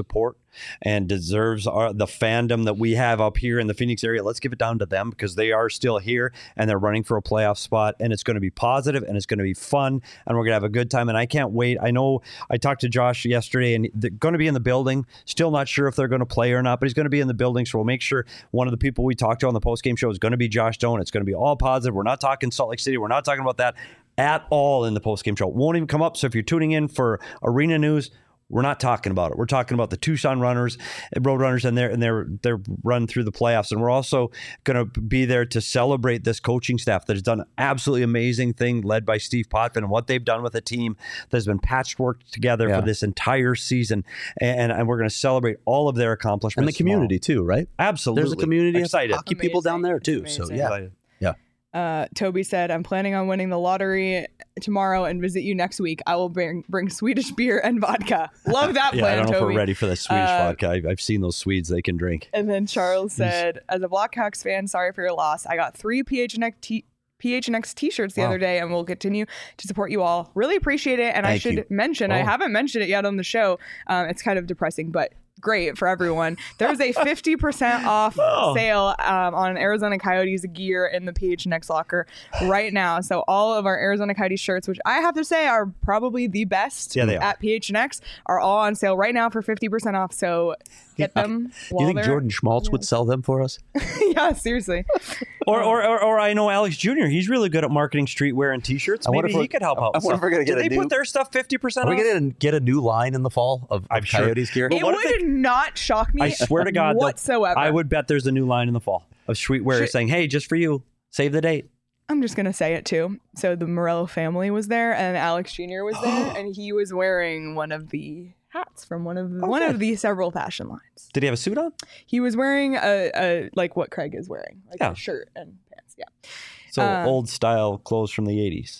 and deserves our, the fandom that we have up here in the Phoenix area. Let's give it down to them because they are still here and they're running for a playoff spot, and it's going to be positive and it's going to be fun and we're going to have a good time. And I can't wait. I know I talked to Josh yesterday and they're going to be in the building. Still not sure if they're going to play or not, but he's going to be in the building. So we'll make sure one of the people we talked to on the postgame show is going to be Josh Doan. It's going to be all positive. We're not talking Salt Lake City. We're not talking about that at all in the postgame show. It won't even come up. So if you're tuning in for arena news, we're not talking about it. We're talking about the Tucson runners, road runners, and their and their their run through the playoffs. And we're also going to be there to celebrate this coaching staff that has done an absolutely amazing thing, led by Steve Potvin, and what they've done with a team that has been patchworked together yeah. for this entire season. And, and we're going to celebrate all of their accomplishments and the community tomorrow. too, right? Absolutely, there's a community excited. of hockey amazing. people down there too. So yeah, excited. yeah. Uh, Toby said, I'm planning on winning the lottery tomorrow and visit you next week. I will bring bring Swedish beer and vodka. Love that yeah, plan, I don't know Toby. if we're ready for the Swedish uh, vodka. I've, I've seen those Swedes they can drink. And then Charles said, as a Blackhawks fan, sorry for your loss. I got three P H N X t- P H N X t-shirts the wow. other day and we'll continue to support you all. Really appreciate it. And Thank I should you. mention, oh. I haven't mentioned it yet on the show. Um, it's kind of depressing, but great for everyone. There's a fifty percent off oh. sale um, on Arizona Coyotes gear in the P H N X locker right now. So all of our Arizona Coyotes shirts, which I have to say are probably the best yeah, they at are. P H N X, are all on sale right now for fifty percent off. So get them. Do you think Jordan Schmaltz yeah. would sell them for us? Yeah, seriously. Or, or, or, or I know Alex Junior He's really good at marketing streetwear and T-shirts. Maybe he could help out. I wonder if we're gonna get Did a they new, put their stuff fifty percent off? Are we going to get a new line in the fall of, of I'm Coyotes sure. gear? It would they, not shock me. I swear to God, whatsoever. I would bet there's a new line in the fall of streetwear Should, saying, "Hey, just for you, save the date." I'm just gonna say it too. So the Morello family was there, and Alex Junior was there, and he was wearing one of the hats from one of the, okay. one of the several fashion lines. Did he have a suit on? He was wearing a, a like what Craig is wearing, like yeah. a shirt and pants. Yeah. So uh, old style clothes from the eighties.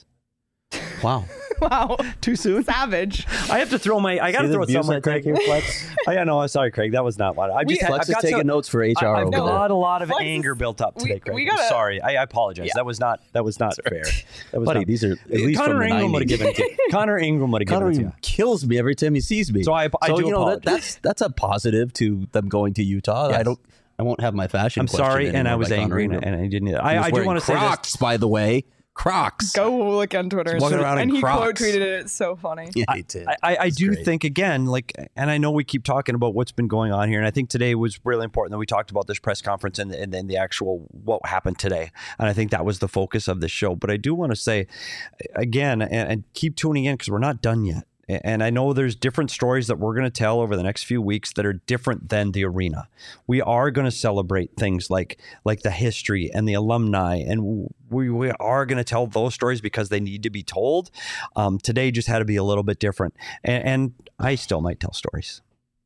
Wow. Wow. Too soon. Savage. I have to throw my. I got to throw it somewhere. Craig here, Flex. I know. I'm sorry, Craig. That was not what I just. We, Flex is taking some, notes for H R. I, I've over got there. a lot of Flex anger is, built up today, we, Craig. we gotta, I'm sorry. I, I apologize. Yeah. That was not. That was not fair. That was Buddy, not, these are at least Connor from the Ingram would have given it to you. Connor Ingram would have given Connor it to you. kills me every time he sees me. So I, I so, do you know, apologize. That, that's that's a positive to them going to Utah. Yes. I don't. I won't have my fashion. I'm sorry, and I was angry, and, and I didn't. I, I do want to say Crocs, by the way. Crocs. Go look on Twitter. He's walking around and in he Crocs. quote tweeted it. It's so funny. Yeah, I, I, I do great. think again, like, and I know we keep talking about what's been going on here, and I think today was really important that we talked about this press conference and and then the actual what happened today, and I think that was the focus of the show. But I do want to say again, and, and keep tuning in because we're not done yet. And I know there's different stories that we're going to tell over the next few weeks that are different than the arena. We are going to celebrate things like like the history and the alumni, and we, we are going to tell those stories because they need to be told. Um, today just had to be a little bit different, and, and I still might tell stories.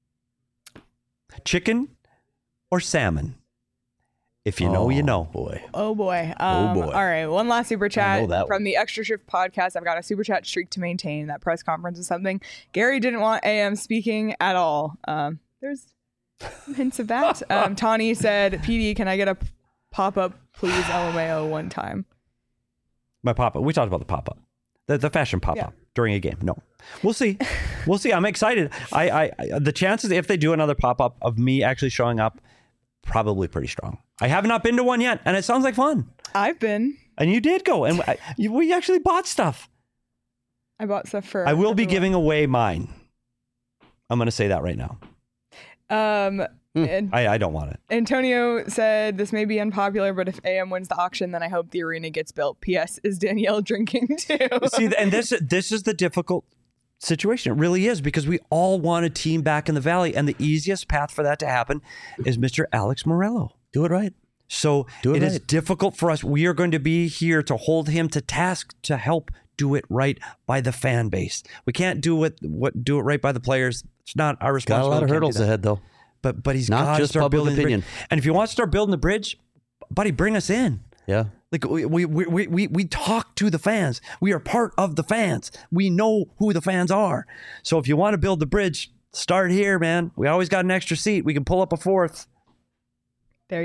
Chicken or salmon? If you know, oh, you know. Boy. Oh, boy. Um, oh, boy. All right. One last super chat from one. the Extra Shift podcast. I've got a super chat streak to maintain. That press conference is something. Gary didn't want A M speaking at all. Um, there's some hints of that. um, Tawny said, P D, can I get a pop-up, please, L M A O one time? My pop-up. We talked about the pop-up. The, the fashion pop-up yeah. during a game. No. We'll see. We'll see. I'm excited. I, I, I the chances, if they do another pop-up of me actually showing up, probably pretty strong. I have not been to one yet, and it sounds like fun. I've been. And you did go, and I, you, we actually bought stuff. I bought stuff for I will everyone. be giving away mine. I'm going to say that right now. Um, hmm. and I, I don't want it. Antonio said, this may be unpopular, but if A M wins the auction, then I hope the arena gets built. P S. Is Danielle drinking too? See, and this this is the difficult situation. It really is, because we all want a team back in the Valley, and the easiest path for that to happen is Mister Alex Morello. Do it right. So do it, it right. is difficult for us. We are going to be here to hold him to task to help do it right by the fan base. We can't do what what do it right by the players. It's not our responsibility. Got a lot of hurdles ahead, though. But but he's not got just to start public building opinion. The bridge. And if you want to start building the bridge, buddy, bring us in. Yeah. Like we, we we we we talk to the fans. We are part of the fans. We know who the fans are. So if you want to build the bridge, start here, man. We always got an extra seat. We can pull up a fourth. There you go.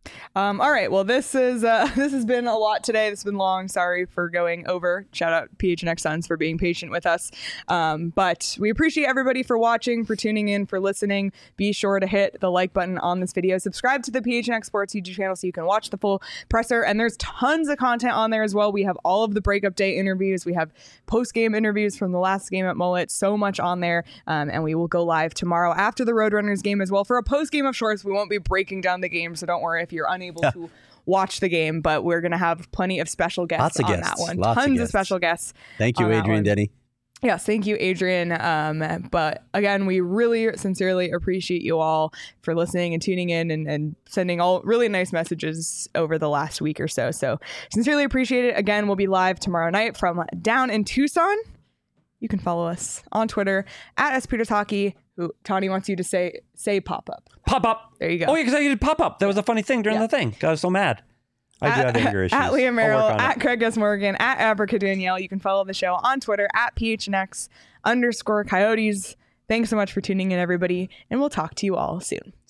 Um, all right. Well, this is uh, this has been a lot today. This has been long. Sorry for going over. Shout out P H N X Suns for being patient with us. Um, but we appreciate everybody for watching, for tuning in, for listening. Be sure to hit the like button on this video. Subscribe to the P H N X Sports YouTube channel so you can watch the full presser. And there's tons of content on there as well. We have all of the breakup day interviews. We have post-game interviews from the last game at Mullet. So much on there. Um, and we will go live tomorrow after the Roadrunners game as well for a post-game of shorts. We won't be breaking down the game, so don't worry if you're unable to watch the game, but we're going to have plenty of special guests Lots of on guests. that one. Lots of Tons of, guests. special guests. Thank you, on that Adrian one. Denny. Yes, thank you, Adrian. Um, but again, we really sincerely appreciate you all for listening and tuning in and, and sending all really nice messages over the last week or so. So sincerely appreciate it. Again, we'll be live tomorrow night from down in Tucson. You can follow us on Twitter at S Peters Hockey. Who Tawny wants you to say say pop up. Pop up. There you go. Oh, yeah, because I did pop up. That was a funny thing during Yeah. the thing. I was so mad. I do have anger issues. At Leah I'll Merrill, work on at it. Craig S. Morgan, at Abrica Danielle. You can follow the show on Twitter at P H N X underscore Coyotes. Thanks so much for tuning in, everybody, and we'll talk to you all soon.